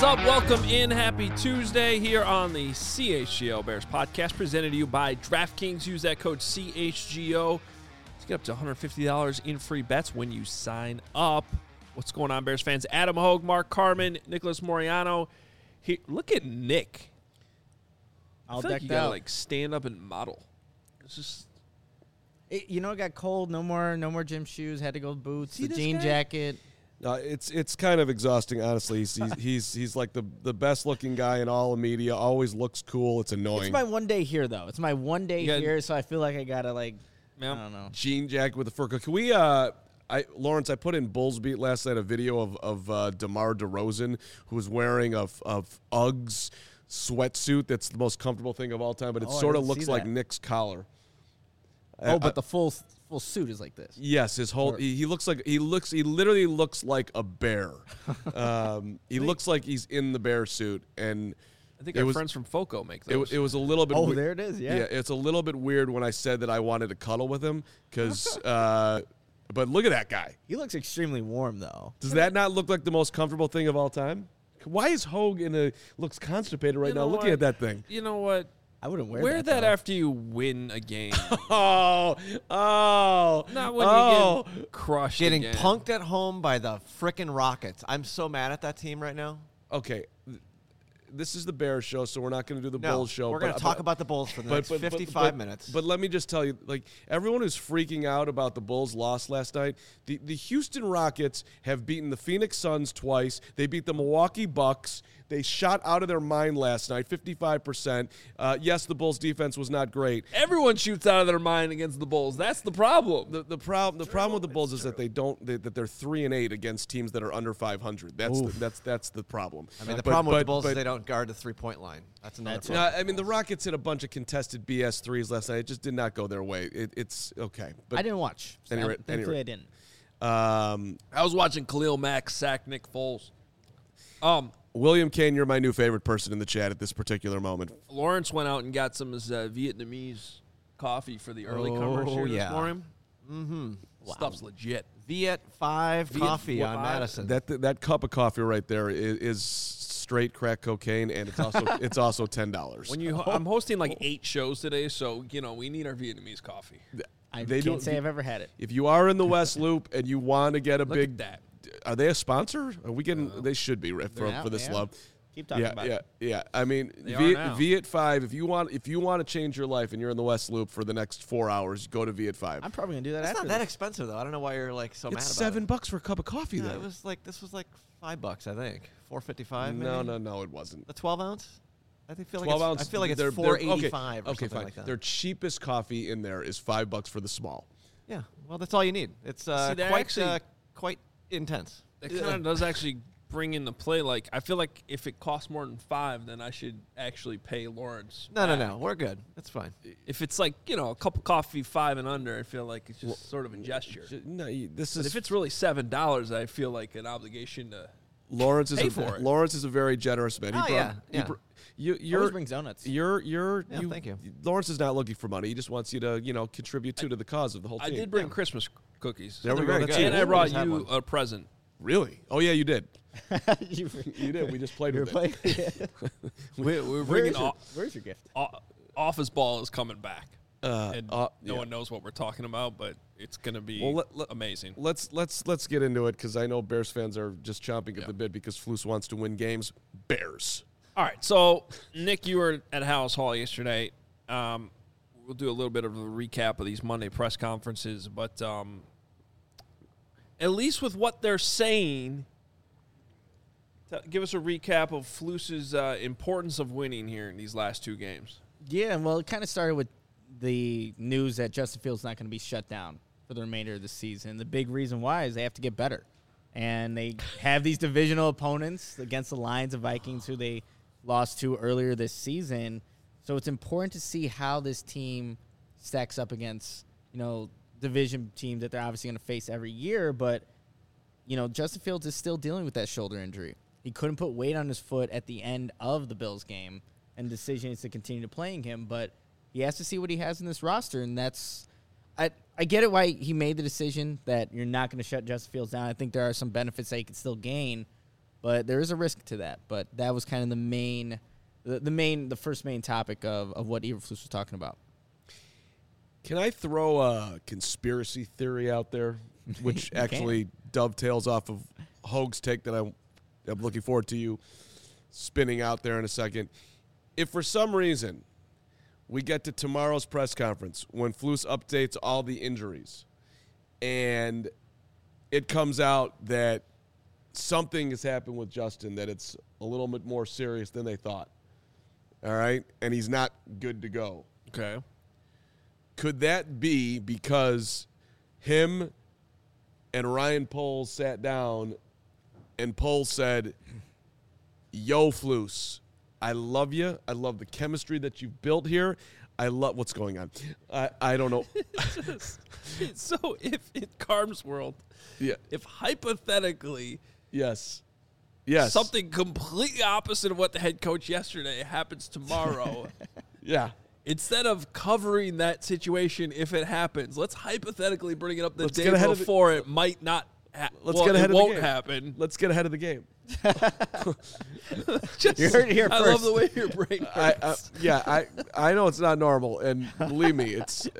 up? Welcome in. Happy Tuesday here on the CHGO Bears podcast, presented to you by DraftKings. Use that code CHGO to get up to $150 in free bets when you sign up. What's going on, Bears fans? Adam Hogue, Mark Carman, Nicholas Moriano. Here, look at Nick. I feel like you gotta stand up and model. It's just, it got cold. No more gym shoes. Had to go with boots. The jean jacket. It's kind of exhausting, honestly. He's like the best looking guy in all of media. Always looks cool. It's annoying. It's my one day here, though. It's my one day here, so I feel like I gotta I don't know. Jean jacket with a fur coat. Can we? Lawrence, I put in Bulls Beat last night a video of DeMar DeRozan, who was wearing a Uggs sweatsuit. That's the most comfortable thing of all time, but it sort of looks like Nick's collar. But the full suit is like this. Yes, his whole he literally looks like a bear. He looks like he's in the bear suit, and I think our friends from FOCO make those. It was a little bit. There it is. Yeah, it's a little bit weird when I said that I wanted to cuddle with him because. But look at that guy. He looks extremely warm, though. Does that not look like the most comfortable thing of all time? Why is Hogue looks constipated right now looking at that thing? You know what? I wouldn't wear that after you win a game. Not when you get crushed. Getting again. punked at home by the frickin' Rockets. I'm so mad at that team right now. Okay. This is the Bears show, so we're not going to do the Bulls show. We're going to talk about the Bulls for the next 55 minutes. But let me just tell you, everyone who's freaking out about the Bulls' loss last night, the Houston Rockets have beaten the Phoenix Suns twice. They beat the Milwaukee Bucks. They shot out of their mind last night, 55%. Yes, the Bulls' defense was not great. Everyone shoots out of their mind against the Bulls. That's the problem. The problem with the Bulls is that they're 3-8 against teams that are under 500. That's the problem. I mean, the problem with the Bulls is they don't guard the 3-point line. That's another problem. I mean, the Rockets hit a bunch of contested BS threes last night. It just did not go their way. It's okay. But I didn't watch. Thankfully, I didn't. I was watching Khalil Mack sack Nick Foles. William Kane, you're my new favorite person in the chat at this particular moment. Lawrence went out and got some Vietnamese coffee for the early comers here this morning. Mm-hmm. Wow. Stuff's legit. Viet 5 coffee on Madison. That cup of coffee right there is straight crack cocaine, and it's also $10. I'm hosting 8 shows today, so we need our Vietnamese coffee. I can't say I've ever had it. If you are in the West Loop and you want to get a big, that. Are they a sponsor? Are we getting? They should be for this love. Keep talking about it. Yeah. I mean, Viet 5. If you want to change your life and you're in the West Loop for the next 4 hours, go to Viet 5. I'm probably gonna do that. It's not that expensive though. I don't know why you're so mad about it. It's $7 for a cup of coffee. No, this was $5. I think $4.55. No, it wasn't. The 12 ounce. I feel 12 ounce. I feel like it's $4.85 or something fine. like that. Their cheapest coffee in there is $5 for the small. Yeah, well, that's all you need. It's quite intense. It kind of does actually bring into play. I feel like if it costs more than $5, then I should actually pay Lawrence. No, we're good. That's fine. If it's a cup of coffee $5 and under, I feel like it's just sort of a gesture. No, but if it's really $7, I feel like an obligation to. Lawrence is a very generous man. Always brings donuts. Thank you. Lawrence is not looking for money. He just wants you to, contribute to the cause of the whole team. I did bring Christmas cookies. There we go. And I brought you a present. Really? Oh yeah, you did. You did. We just played with it. We're bringing. Where's your gift? Office Ball is coming back. No one knows what we're talking about, but it's going to be amazing. Let's get into it because I know Bears fans are just chomping at the bit because Flus wants to win games. Bears. All right, so Nick, you were at House Hall yesterday. We'll do a little bit of a recap of these Monday press conferences, but at least with what they're saying, give us a recap of Flus's importance of winning here in these last 2 games. Yeah, well, it kind of started with the news that Justin Fields is not going to be shut down for the remainder of the season. The big reason why is they have to get better. And they have these divisional opponents against the Lions and Vikings who they lost to earlier this season. So it's important to see how this team stacks up against, division teams that they're obviously going to face every year. But, Justin Fields is still dealing with that shoulder injury. He couldn't put weight on his foot at the end of the Bills game, and the decision is to continue playing him. But he has to see what he has in this roster, and that's I get it why he made the decision that you're not going to shut Justin Fields down. I think there are some benefits that he could still gain. But there is a risk to that. But that was kind of the first main topic of what Eberflus was talking about. Can I throw a conspiracy theory out there, which actually dovetails off of Hoag's take that I'm looking forward to you spinning out there in a second? If for some reason we get to tomorrow's press conference when Flus updates all the injuries and it comes out that something has happened with Justin, that it's a little bit more serious than they thought, all right, and he's not good to go. Okay. Could that be because him and Ryan Poles sat down and Poles said, yo, Flus, I love you. I love the chemistry that you've built here. I love what's going on. I don't know. So if in Carm's world, if hypothetically yes, something completely opposite of what the head coach yesterday happens tomorrow, yeah. Instead of covering that situation if it happens, let's hypothetically bring it up the day get before it might not get ahead of the won't game. happen. Let's get ahead of the game. You heard it here I first. love the way your brain works. I know it's not normal, and believe me,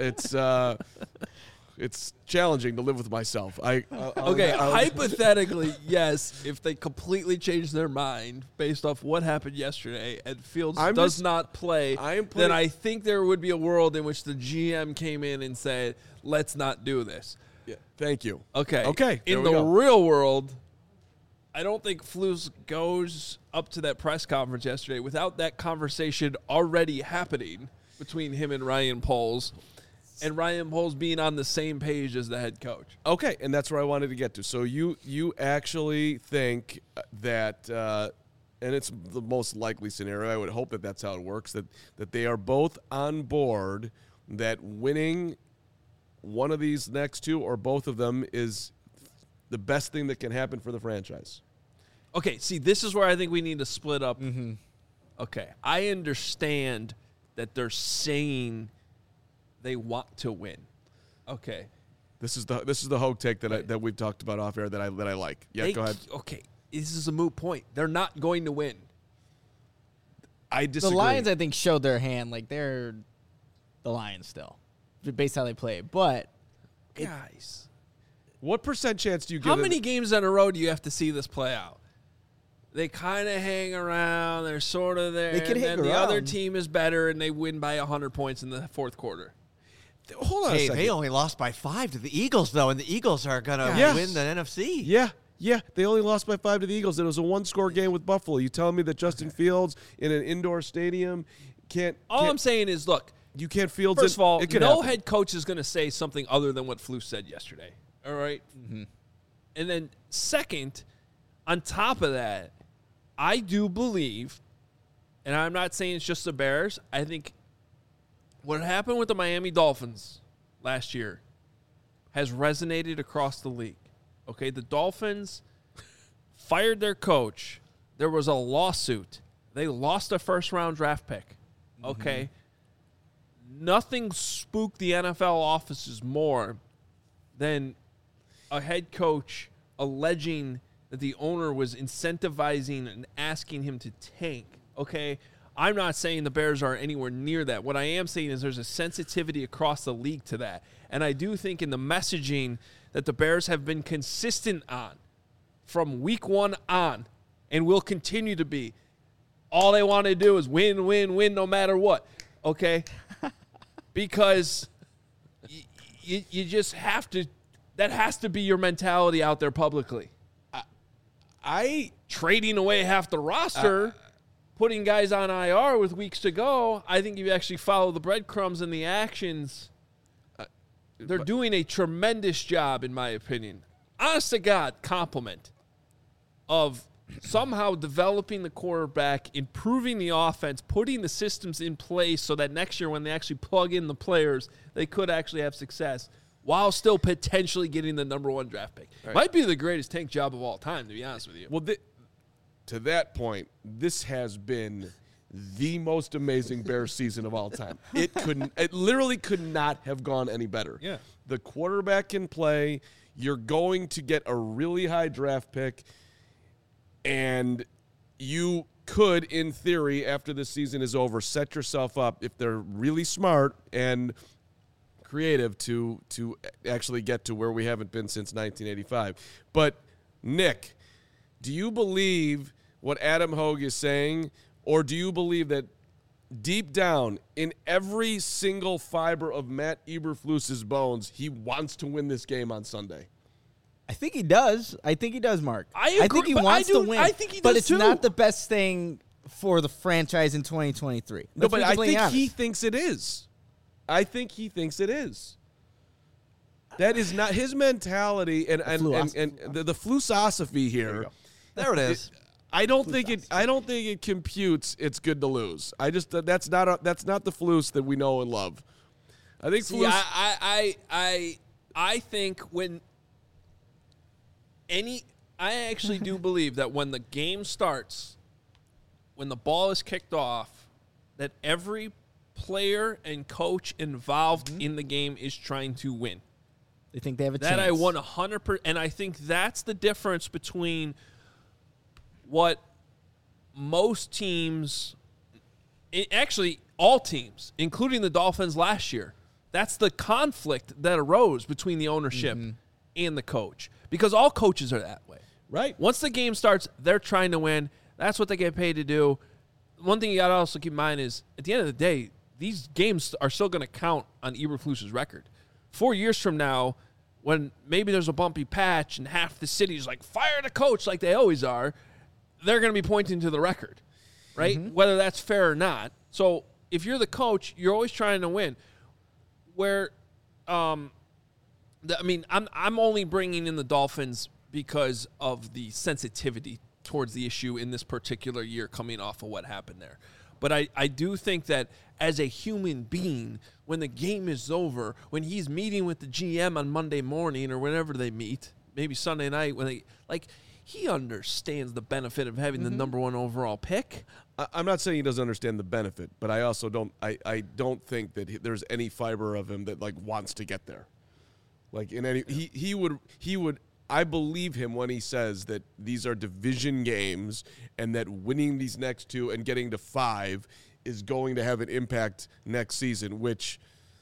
it's challenging to live with myself. Hypothetically, yes, if they completely change their mind based off what happened yesterday and Fields does not play, then I think there would be a world in which the GM came in and said, let's not do this. Yeah, thank you. Okay. In the real world, I don't think Flus goes up to that press conference yesterday without that conversation already happening between him and Ryan Poles. And Ryan Poles being on the same page as the head coach. Okay, and that's where I wanted to get to. So you actually think that, and it's the most likely scenario, I would hope that that's how it works, that they are both on board, that winning one of these next two or both of them is the best thing that can happen for the franchise. Okay, see, this is where I think we need to split up. Mm-hmm. Okay, I understand that they're saying they want to win. Okay. This is the Hoag take that we've talked about off air that I like. Yeah, go ahead. Okay, this is a moot point. They're not going to win. I disagree. The Lions, I think, showed their hand. Like, they're the Lions still, based on how they play. But guys, what percent chance do you give? How many games in a row do you have to see this play out? They kind of hang around. They're sort of there. They can hang and then around. The other team is better, and they win by 100 points in the fourth quarter. Hold on a second. They only lost by 5 to the Eagles, though, and the Eagles are going to win the NFC. Yeah, they only lost by 5 to the Eagles. It was a one-score game with Buffalo. You telling me that Justin Fields in an indoor stadium can't? All I'm saying is, look, you can't Fields. First of all, no happen. head coach is going to say something other than what Flus said yesterday. All right? Mm-hmm. And then second, on top of that, I do believe, and I'm not saying it's just the Bears, I think what happened with the Miami Dolphins last year has resonated across the league. Okay, the Dolphins fired their coach. There was a lawsuit. They lost a first-round draft pick. Okay? Mm-hmm. Nothing spooked the NFL offices more than a head coach alleging that the owner was incentivizing and asking him to tank. Okay? I'm not saying the Bears are anywhere near that. What I am saying is there's a sensitivity across the league to that. And I do think in the messaging that the Bears have been consistent on from week one on and will continue to be, all they want to do is win, win, win no matter what. Okay? Because you just have to – that has to be your mentality out there publicly. I trading away half the roster – putting guys on IR with weeks to go, I think you actually follow the breadcrumbs and the actions. They're doing a tremendous job, in my opinion. Honest to God, compliment of somehow developing the quarterback, improving the offense, putting the systems in place so that next year when they actually plug in the players, they could actually have success while still potentially getting the number 1 draft pick. Right. Might be the greatest tank job of all time, to be honest with you. Well, to that point, this has been the most amazing Bears season of all time. It literally could not have gone any better. Yeah. The quarterback can play. You're going to get a really high draft pick. And you could, in theory, after the season is over, set yourself up, if they're really smart and creative, to actually get to where we haven't been since 1985. But, Nick, do you believe what Adam Hogue is saying, or do you believe that deep down, in every single fiber of Matt Eberflus's bones, he wants to win this game on Sunday? I think he does. Mark. I agree, think he but wants to win. I think he does but it's too. not the best thing for the franchise in 2023. No, but I think honest. he thinks it is. I think he thinks it is. That is not his mentality, and the philosophy here. There it is. I don't think it computes. It's good to lose. That's not the flus that we know and love. I think See, I think when I actually do believe that when the game starts, when the ball is kicked off, that every player and coach involved in the game is trying to win. They think they have a that chance. I 100%, and I think that's the difference between what most teams, actually all teams, including the Dolphins last year, that's the conflict that arose between the ownership and the coach, because all coaches are that way. Right. Once the game starts, they're trying to win. That's what they get paid to do. One thing you got to also keep in mind is, at the end of the day, these games are still going to count on Eberflus's record. 4 years from now, when maybe there's a bumpy patch and half the city's like, fire the coach like they always are, they're going to be pointing to the record, right? Whether that's fair or not. So if you're the coach, you're always trying to win. Where, I'm only bringing in the Dolphins because of the sensitivity towards the issue in this particular year coming off of what happened there. But I do think that as a human being, when the game is over, when he's meeting with the GM on Monday morning or whenever they meet, maybe Sunday night, when he understands the benefit of having the number one overall pick. I'm not saying he doesn't understand the benefit, but I also don't. I don't think that there's any fiber of him that wants to get there. He would. I believe him when he says that these are division games and that winning these next two and getting to 5 is going to have an impact next season, which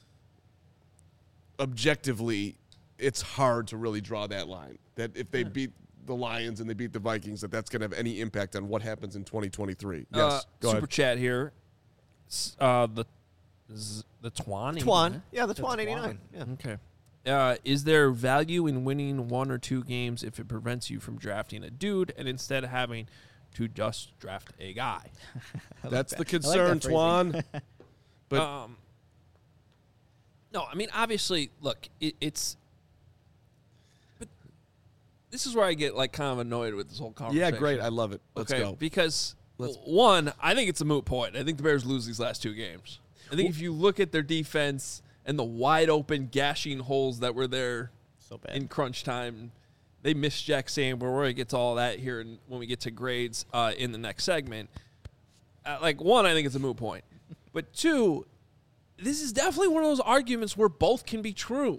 objectively it's hard to really draw that line. That if they beat the Lions and they beat the Vikings, that's going to have any impact on what happens in 2023. Yes, go Super ahead. chat here. The Twan. Yeah, the Twan 89. Yeah. Okay. Is there value in winning 1 or 2 games if it prevents you from drafting a dude and instead having to just draft a guy? That's the concern, Twan. But no, I mean, obviously, look, it's. But this is where I get kind of annoyed with this whole conversation. Yeah, great. I love it. Let's go. Because one, I think it's a moot point. I think the Bears lose these last 2 games. I think if you look at their defense and the wide open gashing holes that were there in crunch time, they missed Jack Samber. We're going to get to all that here when we get to grades in the next segment. One, I think it's a moot point. But 2, this is definitely one of those arguments where both can be true.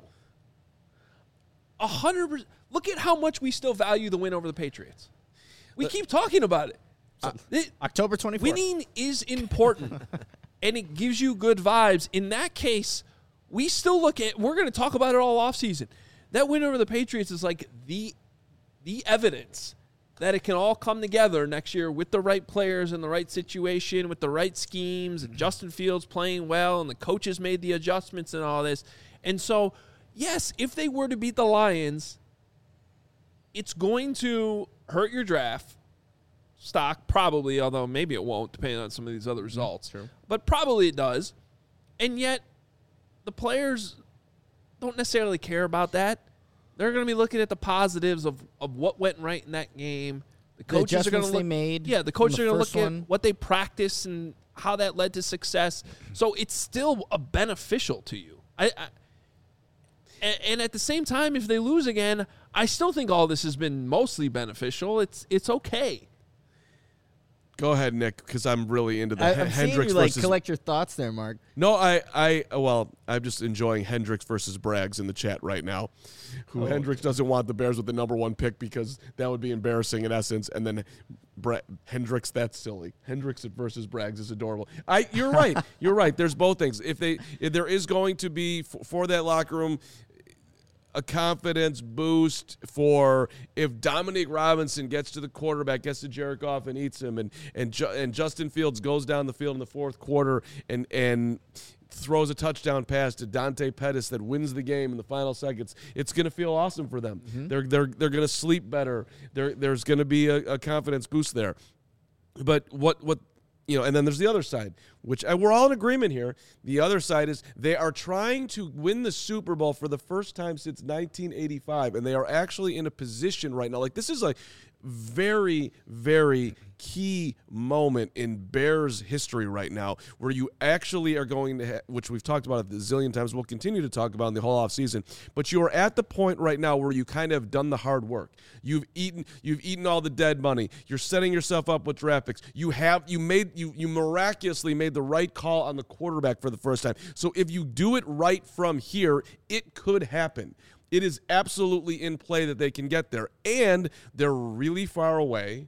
100%. Look at how much we still value the win over the Patriots. We keep talking about it. October 24th. Winning is important, and it gives you good vibes. In that case, we still look at, we're going to talk about it all offseason. That win over the Patriots is the evidence that it can all come together next year with the right players in the right situation, with the right schemes, and Justin Fields playing well, and the coaches made the adjustments and all this. And so, yes, if they were to beat the Lions, it's going to hurt your draft stock, probably, although maybe it won't, depending on some of these other results. True. But probably it does. And yet, the players don't necessarily care about that. They're going to be looking at the positives of what went right in that game. The coaches are going to look. The coaches are going to look at what they practice and how that led to success. So it's still beneficial to you. And at the same time, if they lose again, I still think all this has been mostly beneficial. It's okay. Go ahead, Nick, because I'm really into the I'm seeing Hendricks you versus. collect your thoughts there, Mark. No, I'm just enjoying Hendricks versus Braggs in the chat right now. Hendricks doesn't want the Bears with the number 1 pick because that would be embarrassing in essence. And then Hendricks, that's silly. Hendricks versus Braggs is adorable. You're right. You're right. There's both things. If there is going to be for that locker room a confidence boost for if Dominique Robinson gets to the quarterback, gets to Jared Goff and eats him, and Justin Fields goes down the field in the fourth quarter and throws a touchdown pass to Dante Pettis that wins the game in the final seconds, it's going to feel awesome for them. Mm-hmm. They're going to sleep better. There's going to be a confidence boost there. But what and then there's the other side, which we're all in agreement here. The other side is they are trying to win the Super Bowl for the first time since 1985, and they are actually in a position right now. Like, this is a very, very key moment in Bears history right now where you actually are going to which we've talked about a zillion times, we'll continue to talk about in the whole offseason, but you are at the point right now where you kind of have done the hard work. You've eaten all the dead money. You're setting yourself up with draft picks. You miraculously made the right call on the quarterback for the first time. So if you do it right from here, it could happen. It is absolutely in play that they can get there, and they're really far away.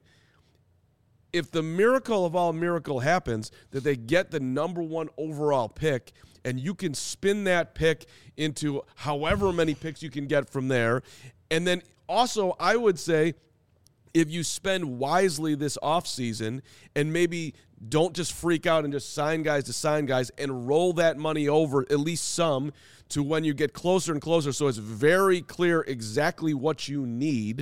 If the miracle of all miracle happens, that they get the number 1 overall pick, and you can spin that pick into however many picks you can get from there. And then also, I would say, if you spend wisely this offseason and maybe don't just freak out and just sign guys and roll that money over, at least some, to when you get closer and closer so it's very clear exactly what you need,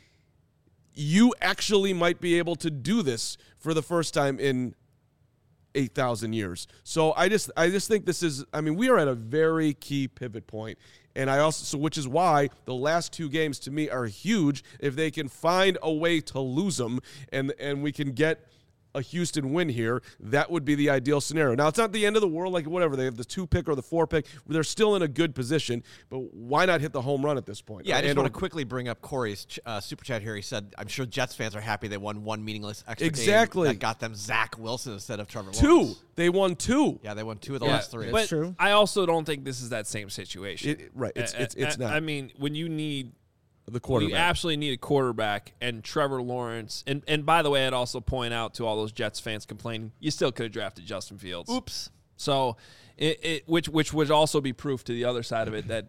you actually might be able to do this for the first time in 8,000 years. So I just think this is, we are at a very key pivot point. And which is why the last 2 games to me are huge. If they can find a way to lose them and we can get a Houston win here, that would be the ideal scenario. Now, it's not the end of the world, like whatever. They have the 2 pick or the 4 pick. They're still in a good position, but why not hit the home run at this point? Yeah, I just want to quickly bring up Corey's super chat here. He said, I'm sure Jets fans are happy they won 1 meaningless extra game that got them Zach Wilson instead of Trevor Lawrence. 2. They won 2. Yeah, they won 2 of the last 3. But true. I also don't think this is that same situation. It's not. When you need the quarterback. You absolutely need a quarterback, and Trevor Lawrence. And by the way, I'd also point out to all those Jets fans complaining, you still could have drafted Justin Fields. Oops. So, which would also be proof to the other side of it that.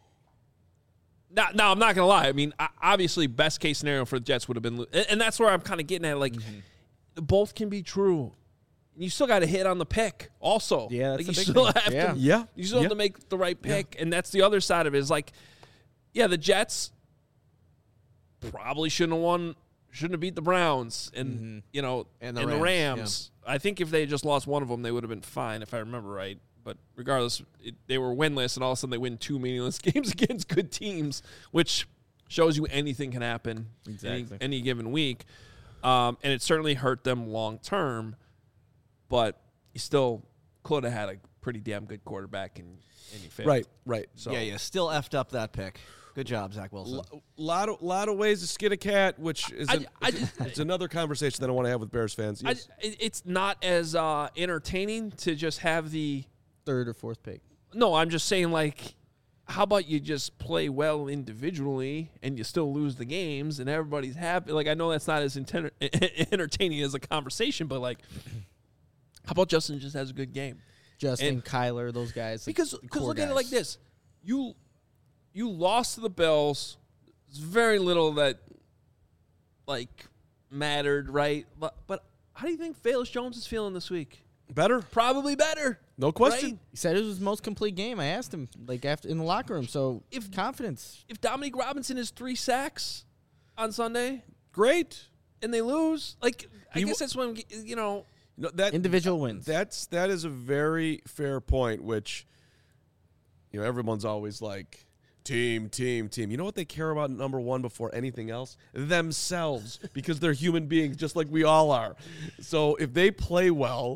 Now, I'm not going to lie. Obviously, best case scenario for the Jets would have been, and that's where I'm kind of getting at. Like, both can be true. You still got to hit on the pick, also. Yeah, that's you a big still thing. have to. Yeah. You still have to make the right pick, and that's the other side of it. Is like, the Jets probably shouldn't have beat the Browns and the Rams. Yeah. I think if they had just lost one of them, they would have been fine, if I remember right. But regardless, they were winless, and all of a sudden they win 2 meaningless games against good teams, which shows you anything can happen any given week. And it certainly hurt them long term, but you still could have had a pretty damn good quarterback, and you failed. Right. So you still effed up that pick. Good job, Zach Wilson. Lot of ways to skin a cat, which is it's another conversation that I want to have with Bears fans. Yes. It's not as entertaining to just have the 3rd or 4th pick. No, I'm just saying, like, how about you just play well individually and you still lose the games and everybody's happy? Like, I know that's not as entertaining as a conversation, but, like, how about Justin just has a good game? Justin, Kyler, those guys. Because look at it like this. You lost to the Bills. There's very little that, like, mattered, right? But how do you think Velus Jones is feeling this week? Better? Probably better. No question. Right? He said it was his most complete game. I asked him, like, after in the locker room. So, confidence. If Dominique Robinson has 3 sacks on Sunday, great. And they lose, like, I guess that's when, that individual wins. That is a very fair point, which, everyone's always like, team. You know what they care about number 1 before anything else? Themselves, because they're human beings just like we all are. So if they play well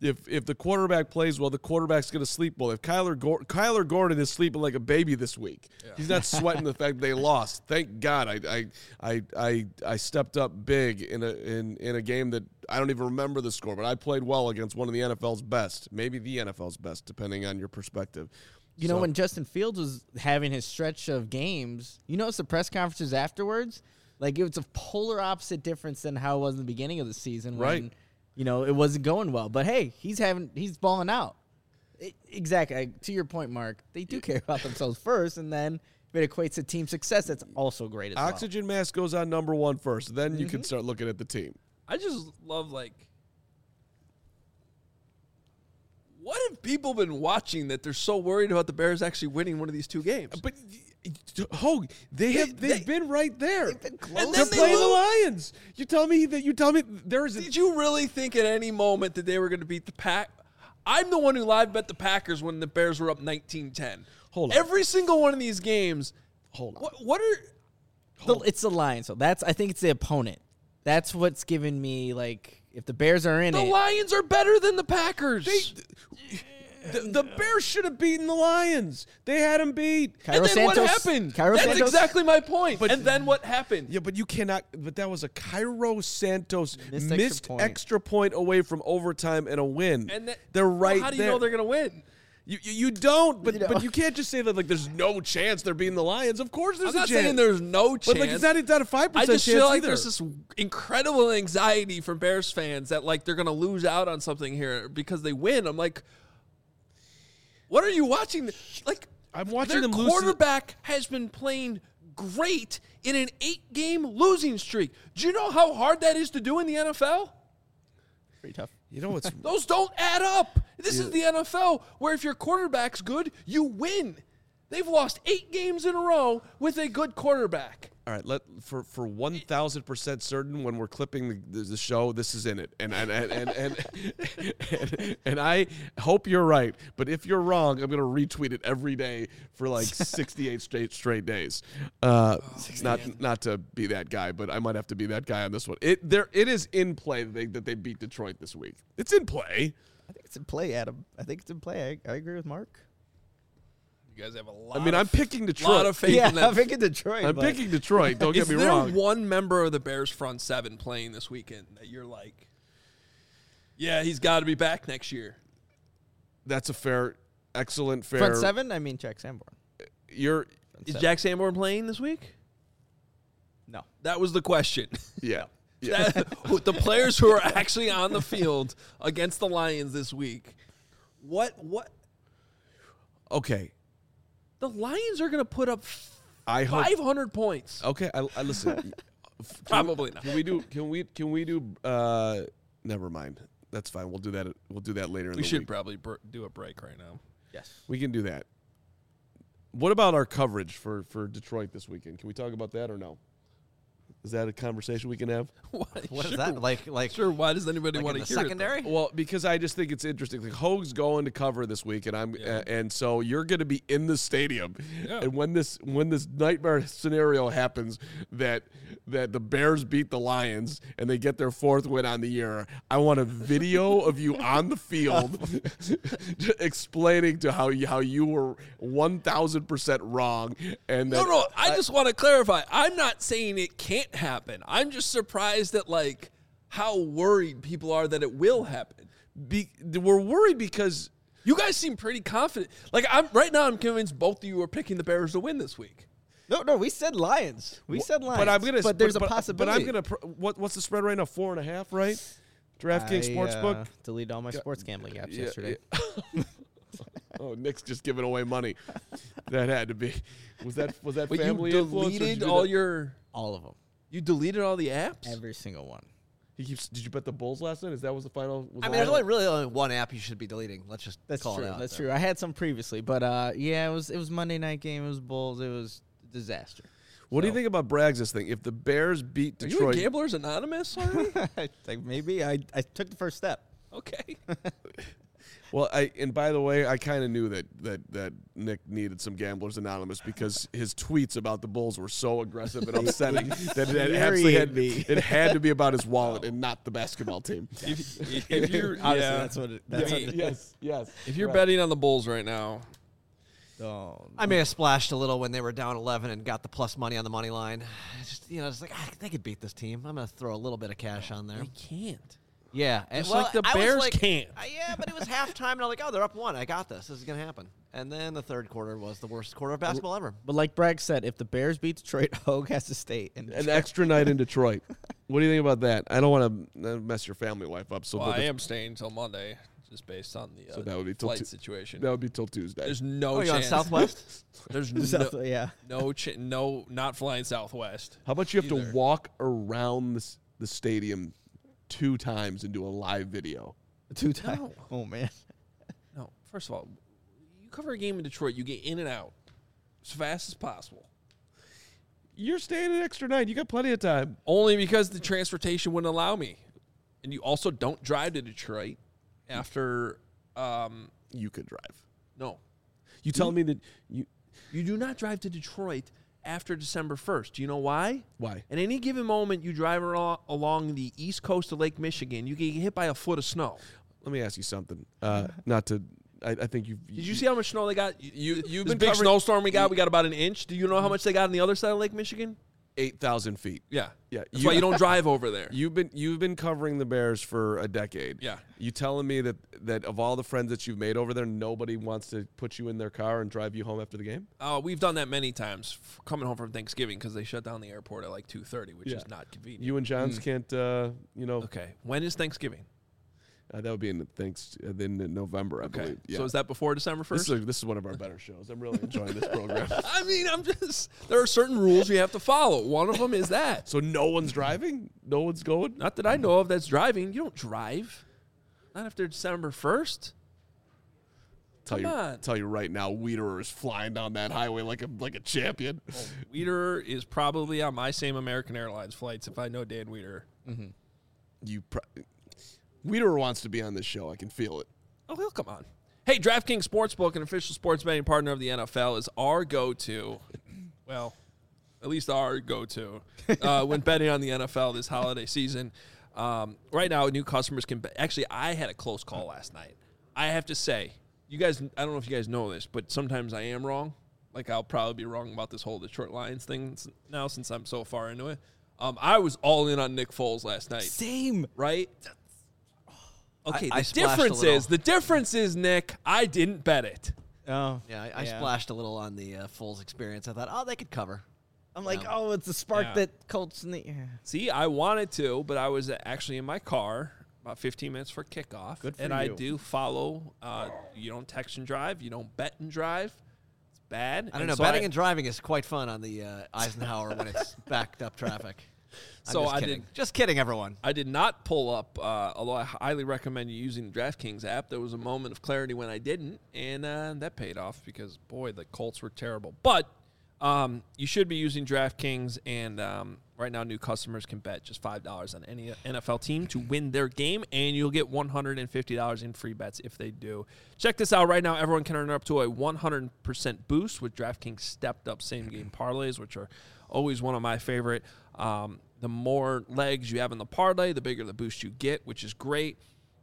if the quarterback plays well, the quarterback's going to sleep well. If Kyler Gordon is sleeping like a baby this week, he's not sweating the fact they lost. Thank God I stepped up big in a game that I don't even remember the score, but I played well against one of the NFL's best, maybe the NFL's best, depending on your perspective. You know, when Justin Fields was having his stretch of games, you notice the press conferences afterwards, like it was a polar opposite difference than how it was in the beginning of the season. Right. When, you know, it wasn't going well. But, hey, he's balling out. Exactly. To your point, Mark, they do care about themselves first, and then if it equates to team success, that's also great as well. Oxygen mask goes on number one first. Then you can start looking at the team. I just love, like, what have people been watching that they're so worried about the Bears actually winning one of these two games? But Hogue, they've been right there. They've been close. And they're playing the Lions. You tell me there is. Did you really think at any moment that they were going to beat the Pack? I'm the one who live bet the Packers when the Bears were up 19-10. Hold on. Every single one of these games. Hold on. What are? It's the Lions. So I think it's the opponent. That's what's giving me, like, if the Bears are in The Lions are better than the Packers. The Bears should have beaten the Lions. They had them beat. And then what happened? That's exactly my point. And then what happened? Yeah, but you cannot. But that was a Cairo Santos missed extra point away from overtime and a win. And they're right there. How do you know they're going to win? You don't, but you can't just say that like there's no chance they're beating the Lions. Of course there's a chance. I'm not saying there's no chance. But like it's not a 5% chance. I just feel like either. there's this incredible anxiety from Bears fans that like they're going to lose out on something here because they win. I'm like, what are you watching? Like, I'm watching them lose. Their quarterback has been playing great in an 8-game losing streak. Do you know how hard that is to do in the NFL? Pretty tough. You know what's those don't add up. This is the NFL where if your quarterback's good, you win. They've lost 8 games in a row with a good quarterback. All right, for 1,000% certain when we're clipping the show, this is in it, and I hope you're right. But if you're wrong, I'm gonna retweet it every day for like 68 straight days. Not to be that guy, but I might have to be that guy on this one. It is in play that they beat Detroit this week. It's in play. I think it's in play, Adam. I think it's in play. I agree with Mark. You guys have a lot. I mean, I'm picking Detroit. Lot of faith in that. I'm picking Detroit. I'm picking Detroit. Don't get me wrong. Is there one member of the Bears front seven playing this weekend that you're like, yeah, he's got to be back next year? That's a excellent fair. Front seven? I mean, Jack Sanborn. Is Jack Sanborn playing this week? No. That was the question. Yeah. The players who are actually on the field against the Lions this week. What? Okay. The Lions are going to put up 500 points. Okay, I listen. Probably not. Can we do? Never mind. That's fine. We'll do that. We'll do that later. We should probably do a break right now. Yes, we can do that. What about our coverage for Detroit this weekend? Can we talk about that or no? Is that a conversation we can have? What is that? Like sure. Why does anybody want to hear secondary? it? Well, because I just think it's interesting. Like Hogue's going to cover this week, and and so you're going to be in the stadium. Yeah. And when this nightmare scenario happens that the Bears beat the Lions and they get their 4th win on the year, I want a video of you on the field explaining to how you were 1,000% wrong. And no. I just want to clarify. I'm not saying it can't happen. I'm just surprised at like how worried people are that it will happen. We're worried because you guys seem pretty confident. Like right now, I'm convinced both of you are picking the Bears to win this week. No, we said Lions. But there's a possibility. But I'm gonna. What's the spread right now? 4.5, right? DraftKings Sportsbook. Deleted all my sports gambling apps yesterday. Oh, Nick's just giving away money. That had to be. Was that but family you influence? Deleted all of them. You deleted all the apps? Every single one. Did you bet the Bulls last night? That was the final? There's only one app you should be deleting. Let's just call true. it out. That's true. I had some previously, but it was Monday night game. It was Bulls. It was a disaster. What do you think about Braggs' thing? If the Bears beat Detroit, are you a Gamblers Anonymous already? Maybe I took the first step. Okay. Well, and by the way, I kind of knew that Nick needed some Gamblers Anonymous because his tweets about the Bulls were so aggressive and upsetting that it had to be about his wallet and not the basketball team. If you're, That's what it Yes. If you're betting on the Bulls right now, I may have splashed a little when they were down 11 and got the plus money on the money line. It's like they could beat this team. I'm going to throw a little bit of cash on there. they can't. Yeah, Just like the Bears can't. Yeah, but it was halftime, and I'm like, oh, they're up 1. I got this. This is going to happen. And then the third quarter was the worst quarter of basketball ever. But like Bragg said, if the Bears beat Detroit, Hogue has to stay. An extra night in Detroit. What do you think about that? I don't want to mess your family life up. So I am staying until Monday, just based on the that would be flight situation. That would be till Tuesday. There's no chance. You on Southwest? There's no not flying Southwest. How about you have to walk around the stadium 2 times and do a live video? 2 times? No. Oh, man. No. First of all, you cover a game in Detroit, you get in and out as fast as possible. You're staying an extra night. You got plenty of time. Only because the transportation wouldn't allow me. And you also don't drive to Detroit after you could drive. No. You tell me that you do not drive to Detroit after December 1st. Do you know why? Why? At any given moment, you drive along the east coast of Lake Michigan, you get hit by a foot of snow. Let me ask you something. Not to, I think you've. Did you see how much snow they got? You've been big snowstorm we got about an inch. Do you know how much they got on the other side of Lake Michigan? 8,000 feet. Yeah. Yeah. That's why you don't drive over there. You've been covering the Bears for a decade. Yeah. You telling me that of all the friends that you've made over there, nobody wants to put you in their car and drive you home after the game? We've done that many times coming home from Thanksgiving because they shut down the airport at like 2:30, which is not convenient. You and Johns can't, Okay. When is Thanksgiving? That would be in November, I believe. Yeah. So is that before December 1st? This is one of our better shows. I'm really enjoying this program. I mean, there are certain rules you have to follow. One of them is that. So no one's driving? No one's going? Not that I know of that's driving. You don't drive. Not after December 1st. Tell you right now, Wiederer is flying down that highway like a champion. Oh, Wiederer is probably on my same American Airlines flights if I know Dan Wiederer. Mm-hmm. Wiederer wants to be on this show. I can feel it. Oh, he'll come on. Hey, DraftKings Sportsbook, an official sports betting partner of the NFL, is our go-to. Well, at least our go-to when betting on the NFL this holiday season. Right now, new customers can bet. Actually, I had a close call last night. I have to say, you guys, I don't know if you guys know this, but sometimes I am wrong. Like, I'll probably be wrong about this whole Detroit Lions thing now since I'm so far into it. I was all in on Nick Foles last night. Same. Right? Okay, the difference is, Nick, I didn't bet it. Oh. Yeah, I splashed a little on the Foles experience. I thought, they could cover. I'm like, it's a spark that Colts need. Yeah. See, I wanted to, but I was actually in my car about 15 minutes for kickoff. Good for and you. I do follow. You don't text and drive. You don't bet and drive. It's bad. I don't know. Betting and driving is quite fun on the Eisenhower when it's backed up traffic. Just kidding, everyone. I did not pull up, although I highly recommend you using the DraftKings app. There was a moment of clarity when I didn't, and that paid off because, boy, the Colts were terrible. But you should be using DraftKings, and right now new customers can bet just $5 on any NFL team to win their game, and you'll get $150 in free bets if they do. Check this out. Right now, everyone can earn up to a 100% boost with DraftKings stepped-up same-game parlays, which are always one of my favorite. The more legs you have in the parlay, the bigger the boost you get, which is great.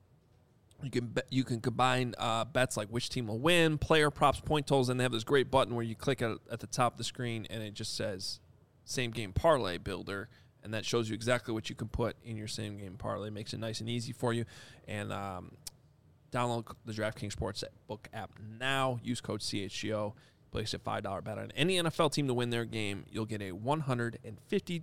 You can combine bets like which team will win, player props, point totals, and they have this great button where you click at the top of the screen, and it just says Same Game Parlay Builder, and that shows you exactly what you can put in your Same Game Parlay. Makes it nice and easy for you. And download the DraftKings Sportsbook app now. Use code CHGO. Place a $5 bet on any NFL team to win their game. You'll get a $150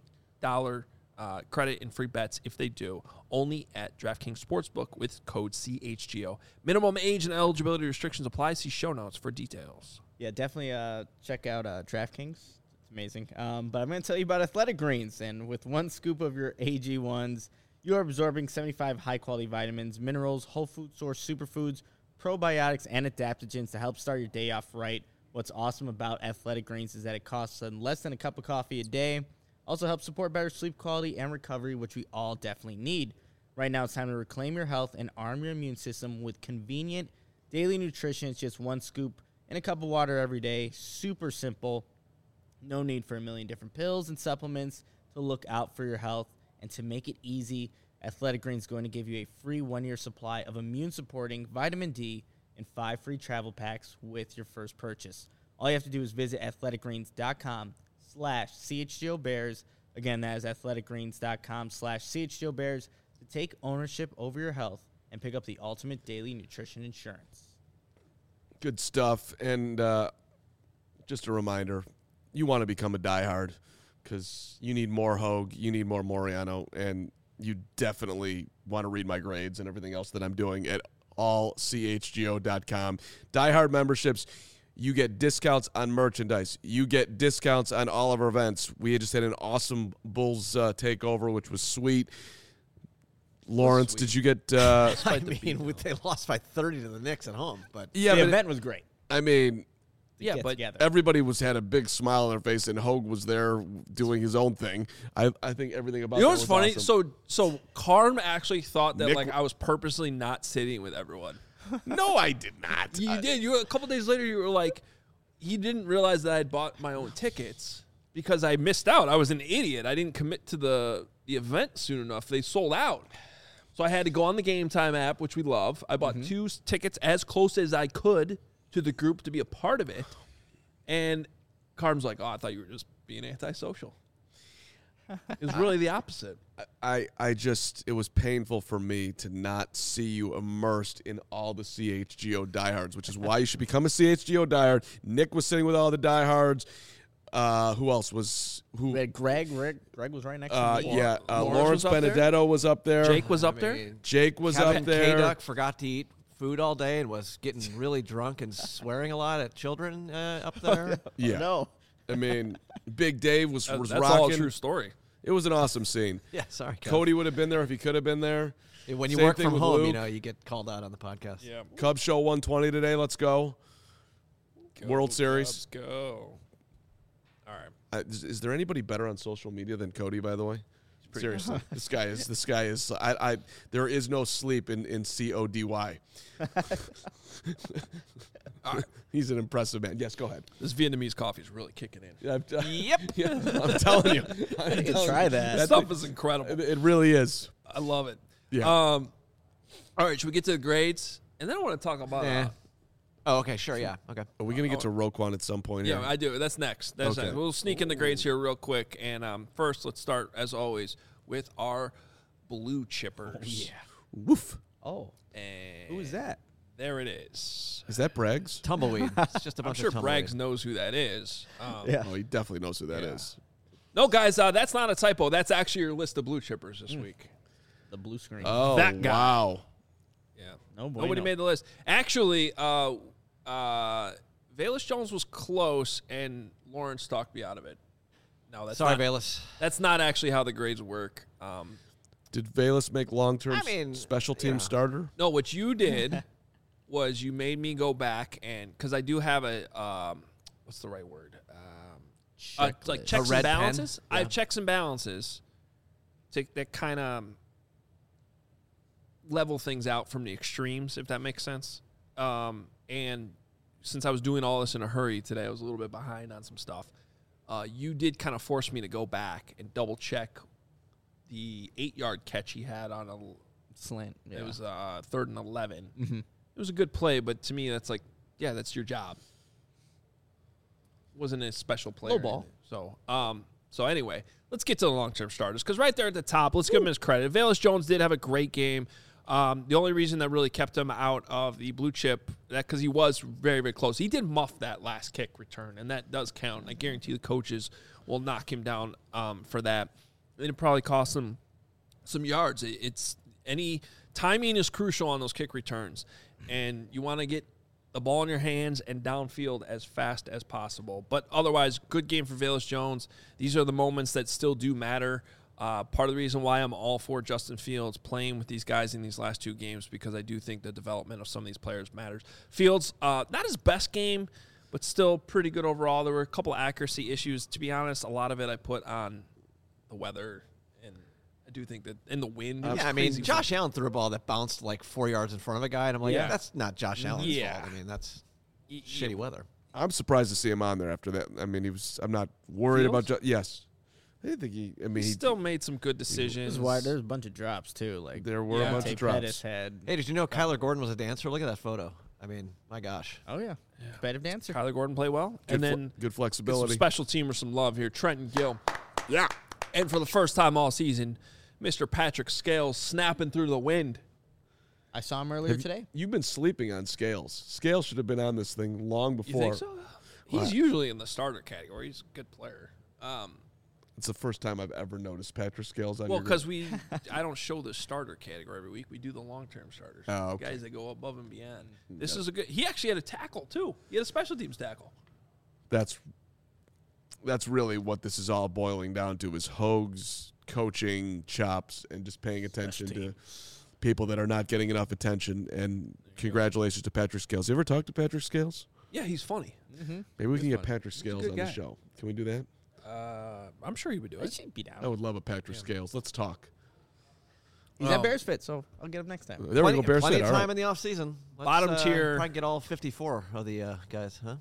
credit and free bets if they do, only at DraftKings Sportsbook with code CHGO. Minimum age and eligibility restrictions apply. See show notes for details. Yeah, definitely check out DraftKings. It's amazing. But I'm going to tell you about Athletic Greens. And with one scoop of your AG1s, you are absorbing 75 high-quality vitamins, minerals, whole food source superfoods, probiotics, and adaptogens to help start your day off right. What's awesome about Athletic Greens is that it costs less than a cup of coffee a day. Also helps support better sleep quality and recovery, which we all definitely need. Right now, it's time to reclaim your health and arm your immune system with convenient, Daily nutrition is just 1 scoop in a cup of water every day. Super simple. No need for a million different pills and supplements to look out for your health. And to make it easy, Athletic Greens is going to give you a free 1-year supply of immune-supporting vitamin D and 5 free travel packs with your first purchase. All you have to do is visit athleticgreens.com/CHGOBears. Again, that is athleticgreens.com/CHGOBears to take ownership over your health and pick up the ultimate daily nutrition insurance. Good stuff. And just a reminder, you want to become a diehard because you need more Hogue, you need more Moriano, and you definitely want to read my grades and everything else that I'm doing at allchgo.com. Diehard memberships, you get discounts on merchandise. You get discounts on all of our events. We just had an awesome Bulls takeover, which was sweet. Lawrence, did you get... I mean, they lost by 30 to the Knicks at home. But the event was great. I mean... Yeah, but together. Everybody had a big smile on their face, and Hogue was there doing his own thing. I think everything about you know that what's was funny? awesome. So Carm actually thought that Nick- I was purposely not sitting with everyone. No, I did not. You did. You a couple days later, you were like, he didn't realize that I'd bought my own tickets because I missed out. I was an idiot. I didn't commit to the event soon enough. They sold out. So I had to go on the Game Time app, which we love. I bought 2 tickets as close as I could to the group to be a part of it. And Carm's like, oh, I thought you were just being antisocial. It was really the opposite. I just, it was painful for me to not see you immersed in all the CHGO diehards, which is why you should become a CHGO diehard. Nick was sitting with all the diehards. Who else was? We had Greg was right next to me. Yeah, Lawrence Lawrence was up there? Benedetto was up there. Jake was up there. Jake was Kevin up there. K-Duck forgot to eat food all day and was getting really drunk and swearing a lot at children up there. Yeah. No. I mean, Big Dave was That's rocking. all a true story. It was an awesome scene. Yeah, sorry, Kev. Cody would have been there if he could have been there. When you Same work thing from with home, Luke. you get called out on the podcast. Yeah. Cubs show 120 today. Let's go. World Series. Let's go. All right. Is there anybody better on social media than Cody? By the way, seriously, this guy is. There is no sleep in CODY. He's an impressive man. Yes, go ahead. This Vietnamese coffee is really kicking in. Yep. Yeah, I'm telling you. Try that. That stuff is incredible. It really is. I love it. Yeah. All right, should we get to the grades? And then I want to talk about... Oh, okay, sure, yeah, okay. Are we gonna get to Roquan at some point? yeah, here? I do. That's next. That's Okay. next. We'll sneak in the grades here real quick. And first, let's start, as always, with our blue chippers. Woof. Oh, And who is that? there it is. Is that Braggs? Tumbleweed. It's just a I'm bunch sure of tumbleweed. Braggs knows who that is. Yeah. Oh, he definitely knows who that is. No, guys, that's not a typo. That's actually your list of blue chippers this week. The blue screen. Oh, That guy. wow. Yeah. No bueno. Nobody made the list. Actually, Velus Jones was close, and Lawrence talked me out of it. No, that's Sorry, not, Bayless. that's not actually how the grades work. Did Velus make long-term special team yeah. starter? No, what you did was you made me go back and because I do have a what's the right word? Like checks red and pen? balances. I Yeah. have checks and balances that kind of level things out from the extremes, if that makes sense. And since I was doing all this in a hurry today, I was a little bit behind on some stuff. You did kind of force me to go back and double check the 8-yard catch he had on a Slant. Yeah. it was 3rd and 11. Mhm. It was a good play, but to me, that's like, yeah, that's your job. Wasn't a special player. Low ball. So anyway, let's get to the long-term starters because right there at the top, let's give him his credit. Velus Jones did have a great game. The only reason that really kept him out of the blue chip, that because he was very, very close. He did muff that last kick return, and that does count. I guarantee the coaches will knock him down for that. And it probably cost him some yards. It's any timing is crucial on those kick returns, and you want to get the ball in your hands and downfield as fast as possible. But otherwise, good game for Velus Jones. These are the moments that still do matter. Part of the reason why I'm all for Justin Fields playing with these guys in these last 2 games because I do think the development of some of these players matters. Fields, not his best game, but still pretty good overall. There were a couple accuracy issues. To be honest, a lot of it I put on the weather and do think that in the wind. I mean, Josh Allen threw a ball that bounced like 4 yards in front of a guy, and I'm like, that's not Josh Allen's fault. I mean, that's shitty weather. I'm surprised to see him on there after that. I mean, I'm not worried about. Yes, I didn't think he. I mean, he still made some good decisions. This is why there's a bunch of drops too. Like there were a bunch of drops. Hey, did you know Kyler Gordon was a dancer? Look at that photo. I mean, my gosh. Oh yeah, competitive dancer. Kyler Gordon play well, and then good flexibility. Some special teamer, some love here. Trenton Gill. Yeah, and for the first time all season, Mr. Patrick Scales snapping through the wind. I saw him earlier today. You've been sleeping on Scales. Scales should have been on this thing long before. You think so? He's usually in the starter category. He's a good player. It's the first time I've ever noticed Patrick Scales on. Well, because I don't show the starter category every week. We do the long-term starters. Oh, okay. Guys that go above and beyond. This is a good. He actually had a tackle too. He had a special teams tackle. That's really what this is all boiling down to: is Hogue's coaching chops and just paying attention to people that are not getting enough attention. And congratulations to Patrick Scales. You ever talk to Patrick Scales? Yeah, he's funny. Mm-hmm. Maybe we can get Patrick Scales on the show. Can we do that? I'm sure he would do it. Should be down. I would love a Patrick Scales. Let's talk. He's at Bears Fit, so I'll get him next time. There we go, Bears Fit. Plenty of time in the offseason. Bottom tier. Probably get all 54 of the guys, huh?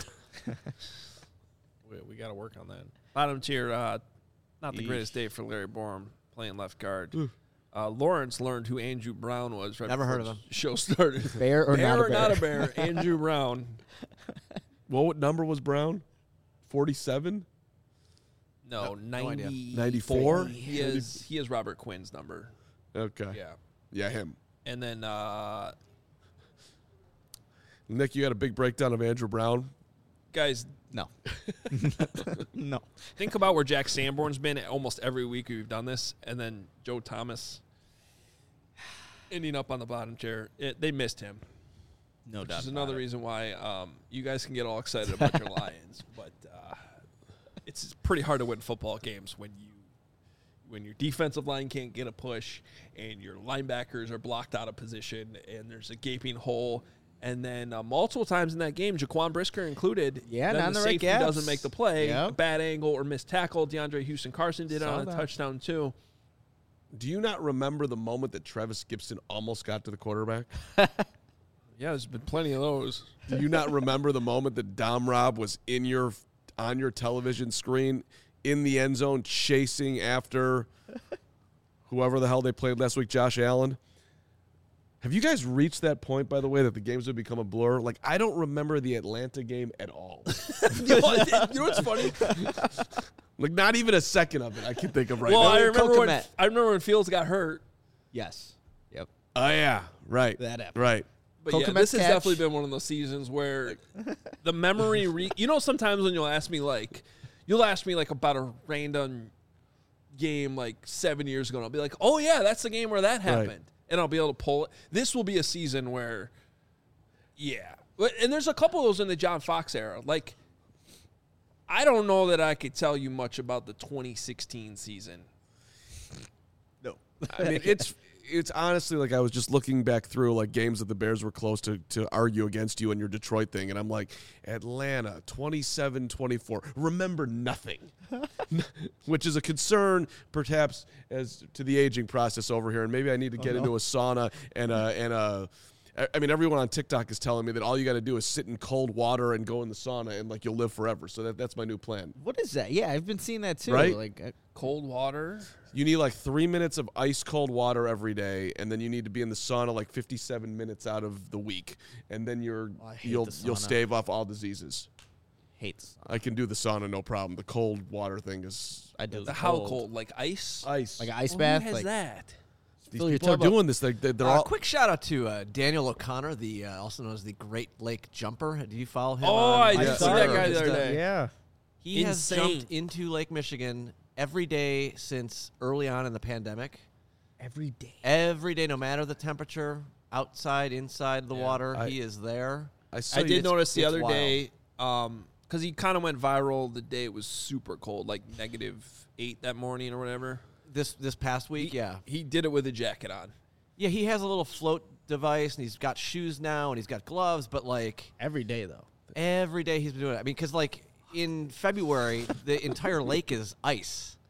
We got to work on that. Bottom tier, not the greatest day for Larry Borum playing left guard. Lawrence learned who Andrew Brown was. Right Never heard of him. Show started. Bear or not a bear? Not a bear. Andrew Brown. Well, what number was Brown? 47? No, 90. 94? He is Robert Quinn's number. Okay. Yeah, him. And then Nick, you had a big breakdown of Andrew Brown. Guys, no. No. Think about where Jack Sanborn's been almost every week we've done this, and then Joe Thomas ending up on the bottom tier. They missed him. No doubt. Which is another reason why you guys can get all excited about your Lions, but it's pretty hard to win football games when your defensive line can't get a push and your linebackers are blocked out of position and there's a gaping hole. And then multiple times in that game, Jaquan Brisker included, not the right safety gaps. doesn't make the play, Yep. a bad angle or missed tackle. DeAndre Houston-Carson did it on a that. touchdown too. Do you not remember the moment that Travis Gibson almost got to the quarterback? Yeah, there's been plenty of those. Do you not remember the moment that Dom Rob was on your television screen in the end zone chasing after whoever the hell they played last week, Josh Allen? Have you guys reached that point, by the way, that the games would become a blur? Like, I don't remember the Atlanta game at all. You know what's funny? Like, not even a second of it I can think of right Well, now. I remember when Fields got hurt. Yes. Yep. Oh, yeah. Right. That happened. Right. But yeah, Cocomet's this has catch. definitely been one of those seasons where the memory. Sometimes when you'll ask me about a random game like 7 years ago, and I'll be like, "Oh yeah, that's the game where that happened," and I'll be able to pull it. This will be a season where, and there's a couple of those in the John Fox era. Like, I don't know that I could tell you much about the 2016 season. No. I mean, it's honestly like I was just looking back through like games that the Bears were close to argue against you in your Detroit thing, and I'm like, Atlanta 27-24. Remember nothing, which is a concern perhaps as to the aging process over here, and maybe I need to get into a sauna and I mean, everyone on TikTok is telling me that all you got to do is sit in cold water and go in the sauna, and like you'll live forever. So that's my new plan. What is that? Yeah, I've been seeing that too. Right? Like Cold water. You need like 3 minutes of ice cold water every day, and then you need to be in the sauna like 57 minutes out of the week, and then you'll stave off all diseases. Hates. I can do the sauna, no problem. The cold water thing is. I do. How cold? Like ice? Ice. Like an ice Who bath. has like that? These fill your people are tub up. doing this. They're all. Quick shout out to Daniel O'Connor, the also known as the Great Lake Jumper. Do you follow him? Oh, I did did see see that that guy the other day. Yeah. He has Insane. jumped into Lake Michigan every day since early on in the pandemic. Every day. Every day, no matter the temperature, outside, inside the water, he is there. I did notice the it's other wild. day, because he kind of went viral the day it was super cold, like -8 that morning or whatever. This past week, He did it with a jacket on. Yeah, he has a little float device, and he's got shoes now, and he's got gloves, but, like, Every day though. every day he's been doing it. I mean, because, like, in February, the entire lake is ice.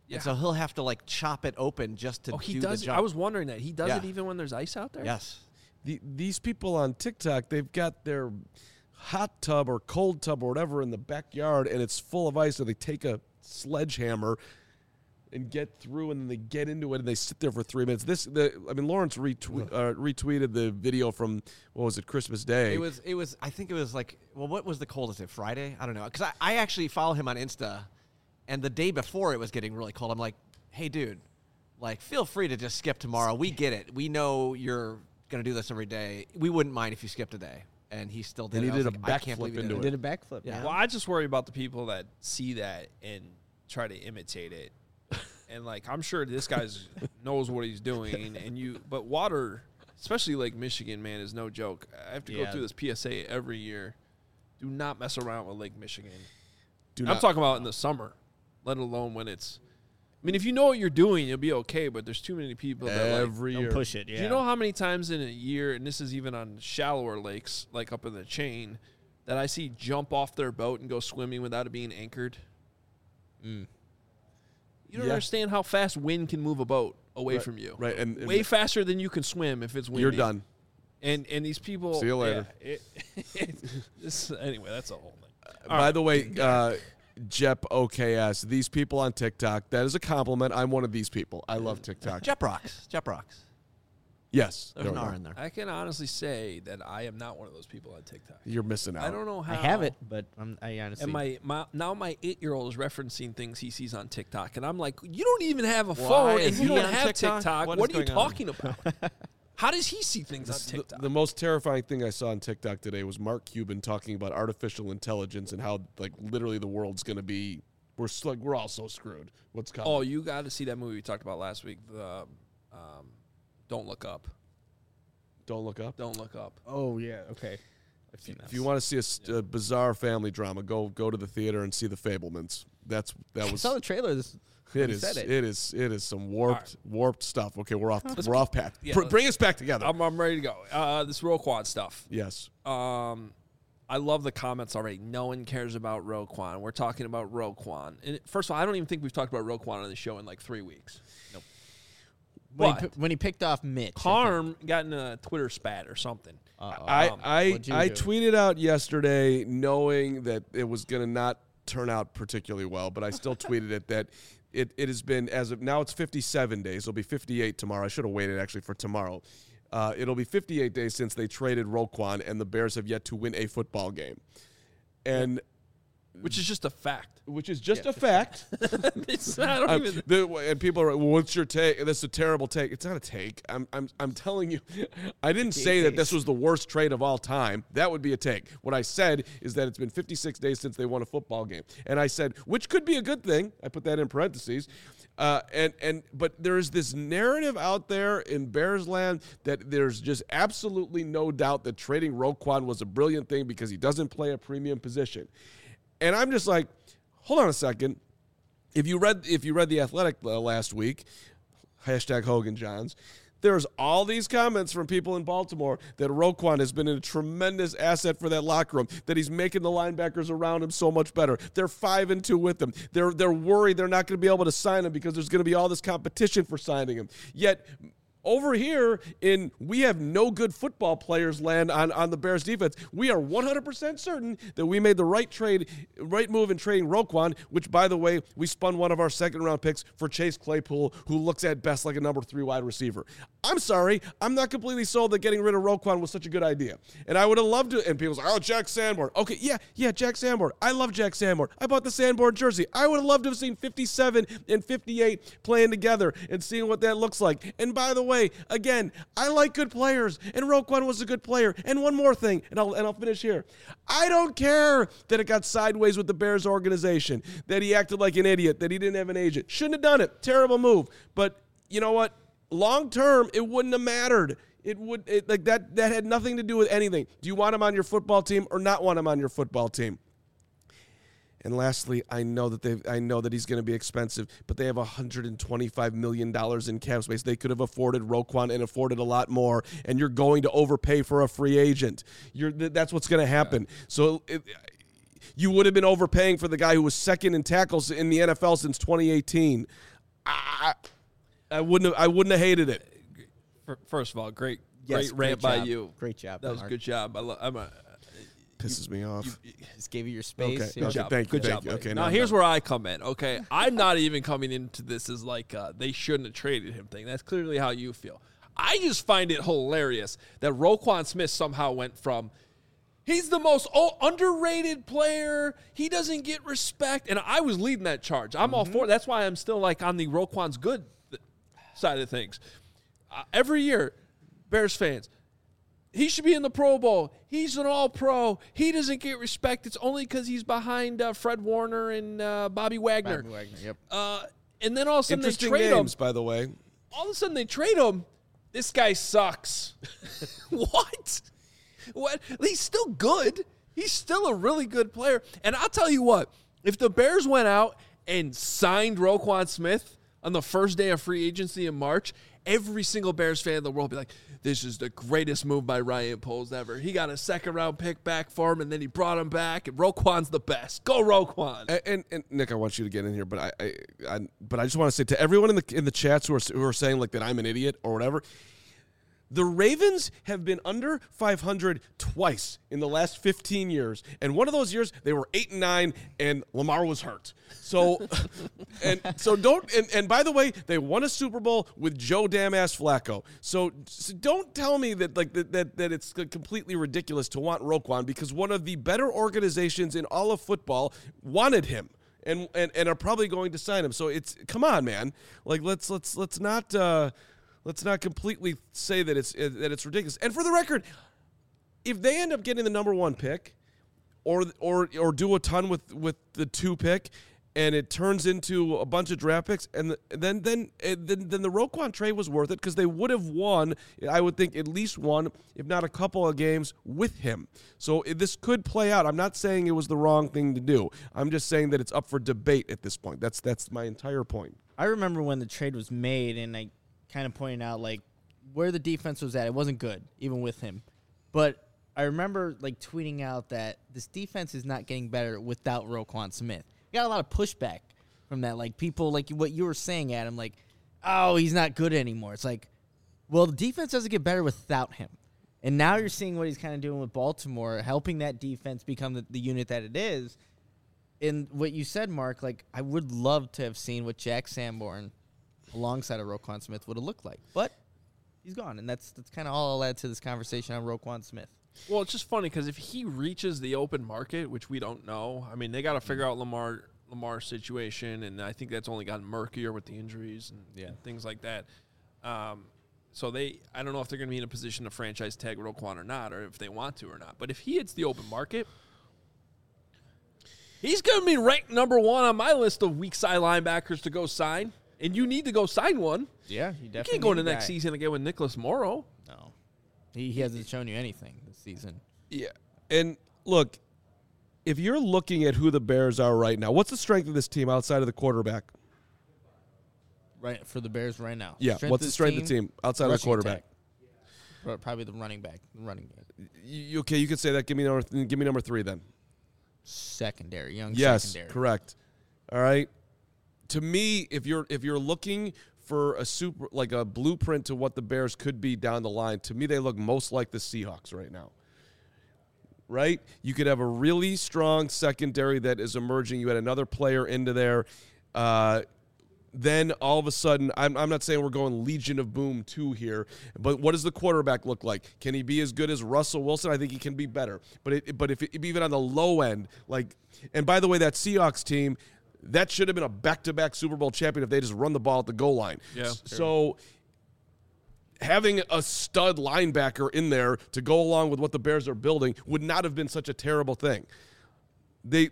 And so he'll have to like chop it open just to do the jump. I was wondering that. He does it even when there's ice out there? Yes. These people on TikTok, they've got their hot tub or cold tub or whatever in the backyard, and it's full of ice, so they take a sledgehammer and get through, and then they get into it, and they sit there for 3 minutes. Lawrence retweeted the video from, what was it, Christmas Day. It was. I think it was like, well, what was the coldest? Friday? I don't know, because I actually follow him on Insta, and the day before it was getting really cold. I'm like, hey, dude, like, feel free to just skip tomorrow. We get it. We know you're gonna do this every day. We wouldn't mind if you skipped a day. And he still did. And he did a backflip into it. Did a backflip. Yeah. Well, I just worry about the people that see that and try to imitate it. And like, I'm sure this guy knows what he's doing. But water, especially Lake Michigan, man, is no joke. I have to go through this PSA every year. Do not mess around with Lake Michigan. I'm talking about in the summer, let alone when it's. I mean, if you know what you're doing, you'll be okay. But there's too many people that every year don't push it. Yeah. Do you know how many times in a year, and this is even on shallower lakes, like up in the chain, that I see jump off their boat and go swimming without it being anchored? You don't understand how fast wind can move a boat away from you. Right, and way faster than you can swim if it's windy. You're done. And these people. See you later. Anyway, that's a whole thing. By the way, Jep OKS, these people on TikTok, that is a compliment. I'm one of these people. I love TikTok. Jep rocks. Yes. There's an R in there. I can honestly say that I am not one of those people on TikTok. You're missing out. I don't know how. I have it, but I honestly. And my 8-year-old is referencing things he sees on TikTok, and I'm like, you don't even have a phone, and you don't have TikTok. What are you talking about? How does he see things on TikTok? The most terrifying thing I saw on TikTok today was Mark Cuban talking about artificial intelligence and how, like, literally the world's going to be. We're all so screwed. What's coming? Oh, you got to see that movie we talked about last week. The Don't Look Up. Don't Look Up. Don't Look Up. Oh yeah. Okay. I've seen that. If you want to see a bizarre family drama, go to the theater and see The Fabelmans. That was. I saw the trailer. It is some warped stuff. Okay, we're off path. Yeah, bring us back together. I'm ready to go. This Roquan stuff. Yes. I love the comments already. No one cares about Roquan. We're talking about Roquan. And first of all, I don't even think we've talked about Roquan on the show in like 3 weeks. Nope. When he picked off Mitch, Carm got in a Twitter spat or something. I tweeted out yesterday knowing that it was going to not turn out particularly well, but I still tweeted it that it has been, as of now, it's 57 days. It'll be 58 tomorrow. I should have waited actually for tomorrow. It'll be 58 days since they traded Roquan, and the Bears have yet to win a football game. And which is just a fact. Which is just a fact. It's not and people are, well, what's your take? That's a terrible take. It's not a take. I'm telling you, I didn't say that this was the worst trade of all time. That would be a take. What I said is that it's been 56 days since they won a football game. And I said, which could be a good thing. I put that in parentheses. But there's this narrative out there in Bears land that there's just absolutely no doubt that trading Roquan was a brilliant thing because he doesn't play a premium position. And I'm just like, hold on a second. If you read The Athletic last week, #Hogan Johns, there's all these comments from people in Baltimore that Roquan has been a tremendous asset for that locker room, that he's making the linebackers around him so much better. They're 5-2 with him. They're worried they're not going to be able to sign him because there's going to be all this competition for signing him. Yet over here we have no good football players land on the Bears defense. We are 100% certain that we made the right move in trading Roquan, which, by the way, we spun one of our second-round picks for Chase Claypool, who looks at best like a number 3 wide receiver. I'm sorry. I'm not completely sold that getting rid of Roquan was such a good idea. And I would have loved to, and people say, oh, Jack Sanborn. Okay, yeah, Jack Sanborn. I love Jack Sanborn. I bought the Sanborn jersey. I would have loved to have seen 57 and 58 playing together and seeing what that looks like. And by the way, again, I like good players, and Roquan was a good player. And one more thing, and I'll finish here. I don't care that it got sideways with the Bears organization, that he acted like an idiot, that he didn't have an agent. Shouldn't have done it. Terrible move. But you know what? Long term, it wouldn't have mattered. That had nothing to do with anything. Do you want him on your football team or not want him on your football team? And lastly, I know that he's going to be expensive, but they have $125 million in cap space. They could have afforded Roquan and afforded a lot more, and you're going to overpay for a free agent. That's what's going to happen. Yeah. So you would have been overpaying for the guy who was second in tackles in the NFL since 2018. I wouldn't have hated it. First of all, great Yes, rant great by job. you. Great job. That was a Mark. good job. Pisses me off. Just gave you your space. Okay. Yeah. Good job. Thank you, Good thank job. you. buddy. Okay, now now here's I'm where I come in. Okay, I'm not even coming into this as like they shouldn't have traded him thing. That's clearly how you feel. I just find it hilarious that Roquan Smith somehow went from he's the most underrated player. He doesn't get respect, and I was leading that charge. I'm all for it. That's why I'm still like on the Roquan's good side of things. Every year, Bears fans. He should be in the Pro Bowl. He's an All-Pro. He doesn't get respect. It's only because he's behind Fred Warner and Bobby Wagner. Bobby Wagner, yep. And then all of a sudden they Interesting trade games, him. by the way. All of a sudden they trade him. This guy sucks. What? He's still good. He's still a really good player. And I'll tell you what, if the Bears went out and signed Roquan Smith on the first day of free agency in March, every single Bears fan in the world would be like, this is the greatest move by Ryan Poles ever. He got a second-round pick back for him, and then he brought him back, and Roquan's the best. Go Roquan. And Nick, I want you to get in here, but I just want to say to everyone in the chats who are saying like that I'm an idiot or whatever. The Ravens have been under 500 twice in the last 15 years, and one of those years they were 8-9, and Lamar was hurt. So, and by the way, they won a Super Bowl with Joe damn-ass Flacco. So don't tell me that that it's completely ridiculous to want Roquan because one of the better organizations in all of football wanted him. And are probably going to sign him. So it's come on, man. Like let's not completely say that it's ridiculous. And for the record, if they end up getting the number 1 pick, or do a ton with the 2 pick, and it turns into a bunch of draft picks, and then the Roquan trade was worth it because they would have won, I would think, at least one, if not a couple of games with him. So this could play out. I'm not saying it was the wrong thing to do. I'm just saying that it's up for debate at this point. That's my entire point. I remember when the trade was made, and I kind of pointing out like where the defense was at. It wasn't good, even with him. But I remember like tweeting out that this defense is not getting better without Roquan Smith. Got a lot of pushback from that. Like people like what you were saying, Adam, like, oh, he's not good anymore. It's like, well, the defense doesn't get better without him. And now you're seeing what he's kind of doing with Baltimore, helping that defense become the unit that it is. And what you said, Mark, like I would love to have seen what Jack Sanborn alongside of Roquan Smith would have looked like. But he's gone, and that's kind of all I'll add to this conversation on Roquan Smith. Well, it's just funny because if he reaches the open market, which we don't know, I mean, they got to figure out Lamar's situation, and I think that's only gotten murkier with the injuries and things like that. So I don't know if they're going to be in a position to franchise tag Roquan or not, or if they want to or not. But if he hits the open market, he's going to be ranked number 1 on my list of weak side linebackers to go sign. And you need to go sign one. Yeah, you definitely can't go into need a next guy. season again with Nicholas Morrow. No. He hasn't shown you anything this season. Yeah. And look, if you're looking at who the Bears are right now, what's the strength of this team outside of the quarterback? Right for the Bears right now. Yeah, what's the strength of the team outside of the rushing quarterback? attack. Probably the running back, the running game. Okay, you could say that. Give me number 3 then. Secondary, young Yes, secondary. correct. All right. To me, if you're looking for a blueprint to what the Bears could be down the line, to me they look most like the Seahawks right now. Right? You could have a really strong secondary that is emerging. You had another player into there. Then all of a sudden, I'm not saying we're going Legion of Boom 2 here, but what does the quarterback look like? Can he be as good as Russell Wilson? I think he can be better. But if even on the low end, and by the way, that Seahawks team, that should have been a back-to-back Super Bowl champion if they just run the ball at the goal line. Yeah. So having a stud linebacker in there to go along with what the Bears are building would not have been such a terrible thing. There's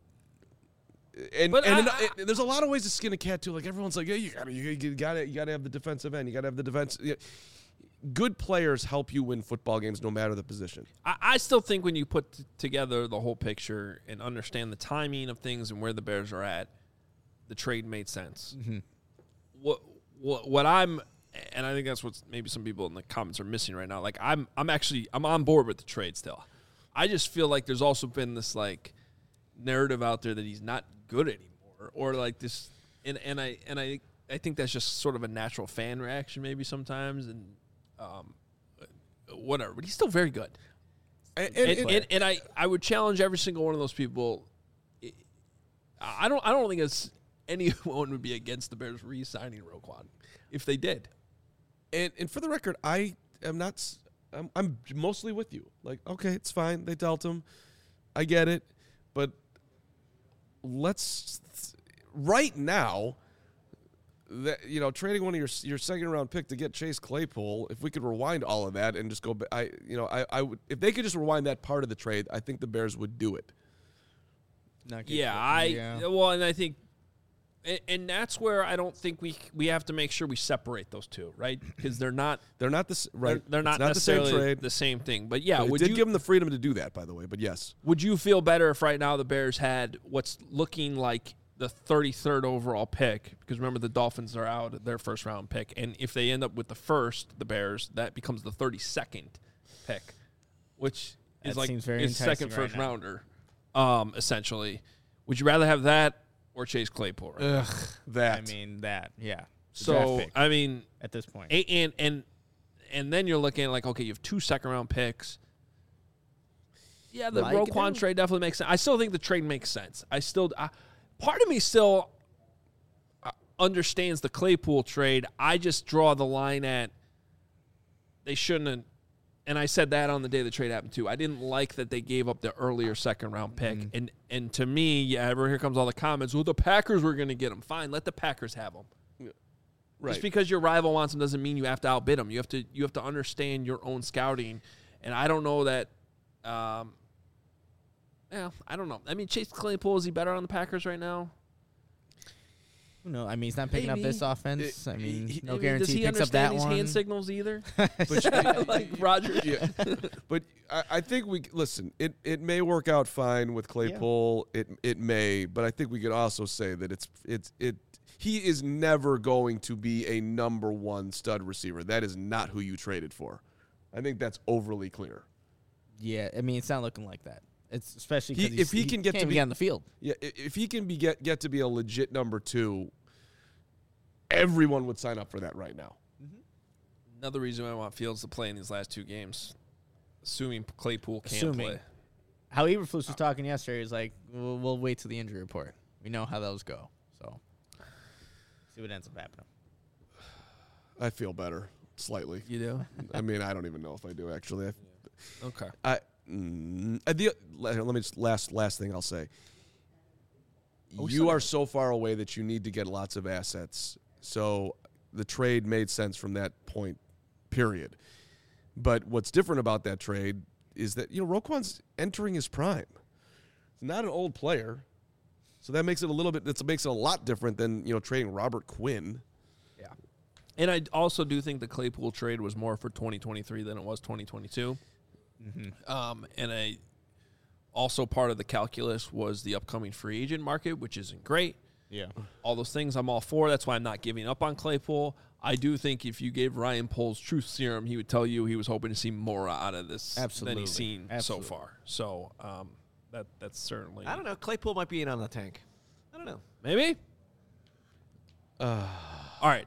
a lot of ways to skin a cat too. Like everyone's like, yeah, you gotta have the defensive end. You gotta have the defense. Good players help you win football games no matter the position. I still think when you put together the whole picture and understand the timing of things and where the Bears are at, the trade made sense. Mm-hmm. What I'm, and I think that's what maybe some people in the comments are missing right now. Like I'm on board with the trade still. I just feel like there's also been this like narrative out there that he's not good anymore, or like this, and I I think that's just sort of a natural fan reaction maybe sometimes, and whatever. But he's still very good. And I would challenge every single one of those people. I don't think anyone would be against the Bears re-signing Roquan if they did. And for the record, I am not. I'm mostly with you. Like, okay, it's fine. They dealt him. I get it, but let's right now. That, trading one of your second round pick to get Chase Claypool. If we could rewind all of that and just go, I would, if they could just rewind that part of the trade, I think the Bears would do it. Well, and I think, and that's where I don't think we have to make sure we separate those two, right? Because they're not the right. They're not necessarily the same thing. But yeah, would you give them the freedom to do that? By the way, but yes, would you feel better if right now the Bears had what's looking like the 33rd overall pick, because remember the Dolphins are out their first round pick, and if they end up with the first, the Bears, that becomes the 32nd pick, which is like his second first rounder, essentially. Would you rather have that or Chase Claypool? Right? Ugh, that. I mean that, yeah. So I mean, at this point, and then you're looking at like, okay, you have 2 second round picks. Yeah, the Roquan trade definitely makes sense. I still think the trade makes sense. Part of me still understands the Claypool trade. I just draw the line at they shouldn't have, and I said that on the day the trade happened too. I didn't like that they gave up the earlier second round pick. Mm-hmm. And to me, here comes all the comments. Well, the Packers were going to get him. Fine, let the Packers have him. Right. Just because your rival wants him doesn't mean you have to outbid him. You have to understand your own scouting. And I don't know that. I don't know. I mean, Chase Claypool, is he better on the Packers right now? No, I mean, he's not picking up this offense. No guarantee he picks up Does he understand that one. these hand signals either? But, like Roger. Yeah. But I think listen, it may work out fine with Claypool. Yeah. It may, but I think we could also say that he is never going to be a number one stud receiver. That is not who you traded for. I think that's overly clear. Yeah, I mean, it's not looking like that. It's especially if he can get to be on the field. Yeah, if he can get to be a legit number 2, everyone would sign up for that right now. Mm-hmm. Another reason I want Fields to play in these last 2 games, assuming Claypool can't play. How Eberflus was talking yesterday is like, we'll wait till the injury report. We know how those go, so see what ends up happening. I feel better slightly. You do? I mean, I don't even know if I do actually. Okay. Let me just last thing I'll say. You are so far away that you need to get lots of assets. So the trade made sense from that point, period. But what's different about that trade is that Roquan's entering his prime. He's not an old player, so that makes it a lot different than trading Robert Quinn. Yeah, and I also do think the Claypool trade was more for 2023 than it was 2022. Mm-hmm. And also part of the calculus was the upcoming free agent market, which isn't great. Yeah. All those things I'm all for. That's why I'm not giving up on Claypool. I do think if you gave Ryan Poles truth serum, he would tell you he was hoping to see more out of this than he's seen so far. So that's certainly. I don't know. Claypool might be in on the tank. I don't know. Maybe. All right.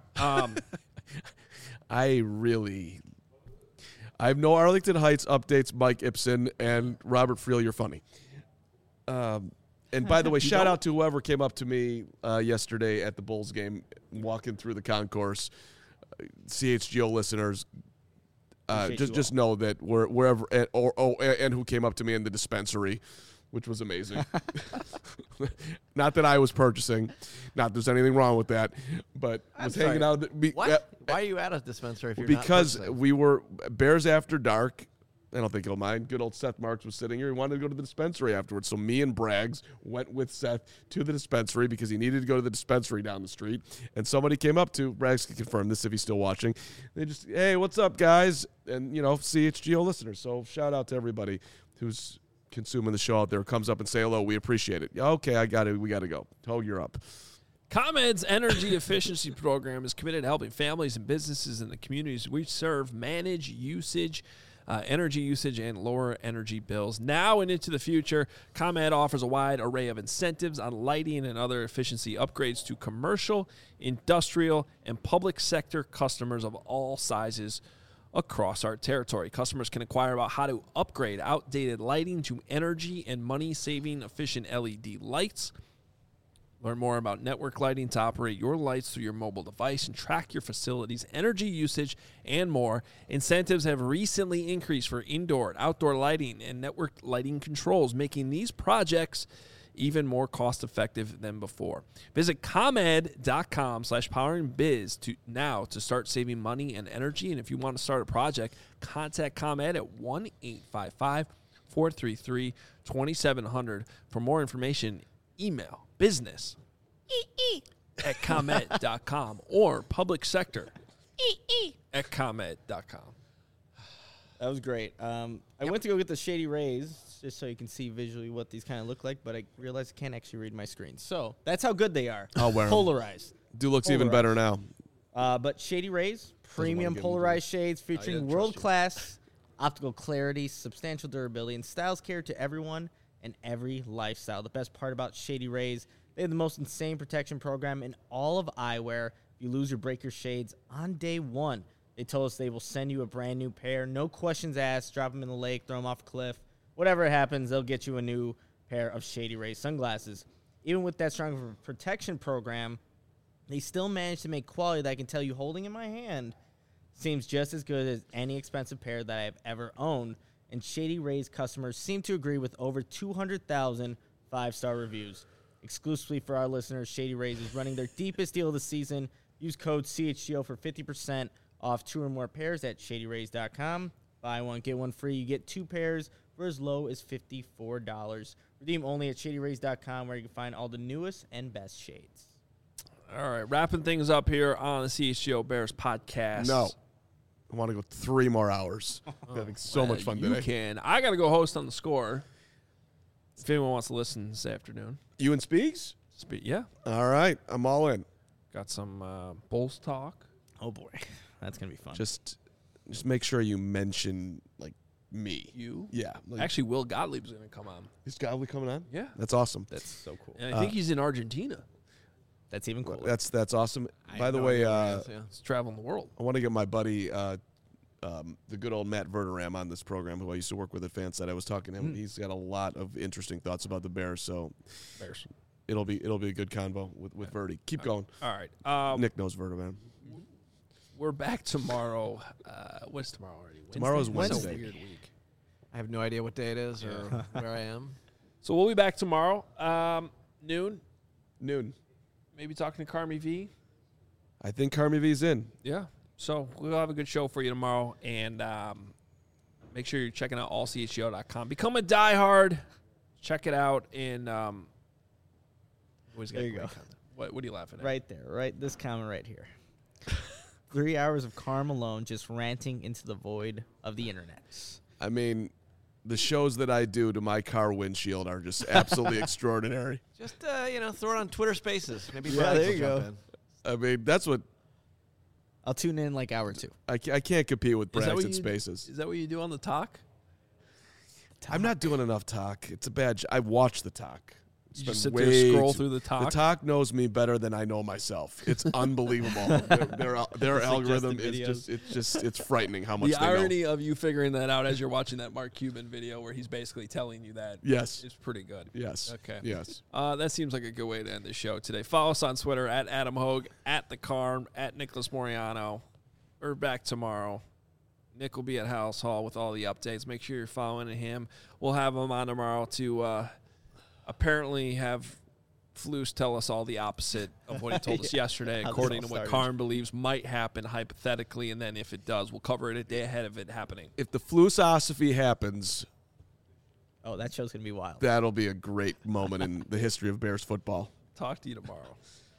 I have no Arlington Heights updates, Mike Ibsen, and Robert Friel, you're funny. And by the way, shout out to whoever came up to me yesterday at the Bulls game, walking through the concourse. CHGO listeners, just know that wherever and who came up to me in the dispensary, which was amazing. Not that I was purchasing, not that there's anything wrong with that, but was hanging out. What? Why are you at a dispensary if you're because not we were Bears After Dark. I don't think he'll mind. Good old Seth Marks was sitting here. He wanted to go to the dispensary afterwards. So me and Braggs went with Seth to the dispensary because he needed to go to the dispensary down the street. And somebody came up to, Braggs can confirm this if he's still watching. They just, hey, what's up, guys? And, CHGO listeners. So shout out to everybody who's consuming the show out there, comes up and say hello. We appreciate it. Okay, I got it. We got to go. Oh, you're up. ComEd's energy efficiency program is committed to helping families and businesses in the communities we serve manage usage energy usage and lower energy bills. Now and into the future, ComEd offers a wide array of incentives on lighting and other efficiency upgrades to commercial, industrial, and public sector customers of all sizes across our territory. Customers can inquire about how to upgrade outdated lighting to energy and money-saving efficient LED lights. Learn more about network lighting to operate your lights through your mobile device and track your facility's energy usage and more. Incentives have recently increased for indoor and outdoor lighting and network lighting controls, making these projects even more cost-effective than before. Visit ComEd.com/poweringbiz to start saving money and energy. And if you want to start a project, contact ComEd at 1-855-433-2700. For more information, email business at ComEd.com or public sector at ComEd.com. That was great. I went to go get the Shady Rays just so you can see visually what these kind of look like, but I realized I can't actually read my screen. So that's how good they are. I'll wear 'em. Polarized. Looks even better now. But Shady Rays, premium give 'em polarized shades I featuring didn't trust world-class optical clarity, substantial durability, and styles catered to everyone and every lifestyle. The best part about Shady Rays, they have the most insane protection program in all of eyewear. If you lose or break your shades on day one, they told us they will send you a brand new pair. No questions asked. Drop them in the lake, throw them off a cliff. Whatever happens, they'll get you a new pair of Shady Rays sunglasses. Even with that strong protection program, they still manage to make quality that I can tell you holding in my hand seems just as good as any expensive pair that I've ever owned. And Shady Rays customers seem to agree with over 200,000 five-star reviews. Exclusively for our listeners, Shady Rays is running their deepest deal of the season. Use code CHGO for 50% off 2 or more pairs at ShadyRays.com. Buy one, get one free. You get 2 pairs for as low as $54. Redeem only at ShadyRays.com, where you can find all the newest and best shades. All right, wrapping things up here on the CHGO Bears podcast. No. I want to go 3 more hours. I'm having so much fun you today. can. I got to go host on The Score. If anyone wants to listen this afternoon. You and Speaks? Yeah. All right. I'm all in. Got some Bulls talk. Oh, boy. That's going to be fun. Just make sure you mention, like, me. You? Yeah. Like, Actually, Will Gottlieb's going to come on. is Godly coming on? Yeah. That's awesome. That's so cool. And I think he's in Argentina. That's even cooler. That's awesome. I By have the no way, idea what it is, yeah. He's traveling the world. I want to get my buddy, the good old Matt Verderam, on this program, who I used to work with at FanSet. I was talking to him. He's got a lot of interesting thoughts about the Bears, so Bears. it'll be a good convo with Verdi. Keep going. All right. Nick knows Verderam. We're back tomorrow. What's tomorrow already? Tomorrow's It's a Wednesday. weird week. I have no idea what day it is or where I am. So we'll be back tomorrow, noon. Maybe talking to Carmi V. I think Carmi V's in. Yeah. So we'll have a good show for you tomorrow. And make sure you're checking out allchgo.com. Become a diehard. Check it out. And always got There you great go. content. What are you laughing at? Right there, right? This comment right here. 3 hours of Carm alone just ranting into the void of the internet. I mean, the shows that I do to my car windshield are just absolutely extraordinary. Just, throw it on Twitter Spaces. Maybe Yeah, Braggs there will you jump go. in. I mean, that's what I'll tune in like hour 2. I can't compete with Is that what Braxton you- Spaces. Is that what you do on the talk? I'm not doing enough talk. It's a bad. I watch the talk. You just Spend sit there, way scroll too- through the talk. The talk knows me better than I know myself. It's unbelievable. their algorithm is it's frightening how much The they know. irony of you figuring that out as you're watching that Mark Cuban video where he's basically telling you that Yes. is pretty good. Yes. Okay. Yes. That seems like a good way to end the show today. Follow us on Twitter at Adam Hogue, at The Carm, at Nicholas Moriano. We're back tomorrow. Nick will be at House Hall with all the updates. Make sure you're following him. We'll have him on tomorrow to apparently have Flus tell us all the opposite of what he told us yesterday, How this according to all what started. Carm believes might happen hypothetically, and then if it does, we'll cover it a day ahead of it happening. If the Flusosophy happens, Oh, that show's going to be wild. that'll be a great moment in the history of Bears football. Talk to you tomorrow.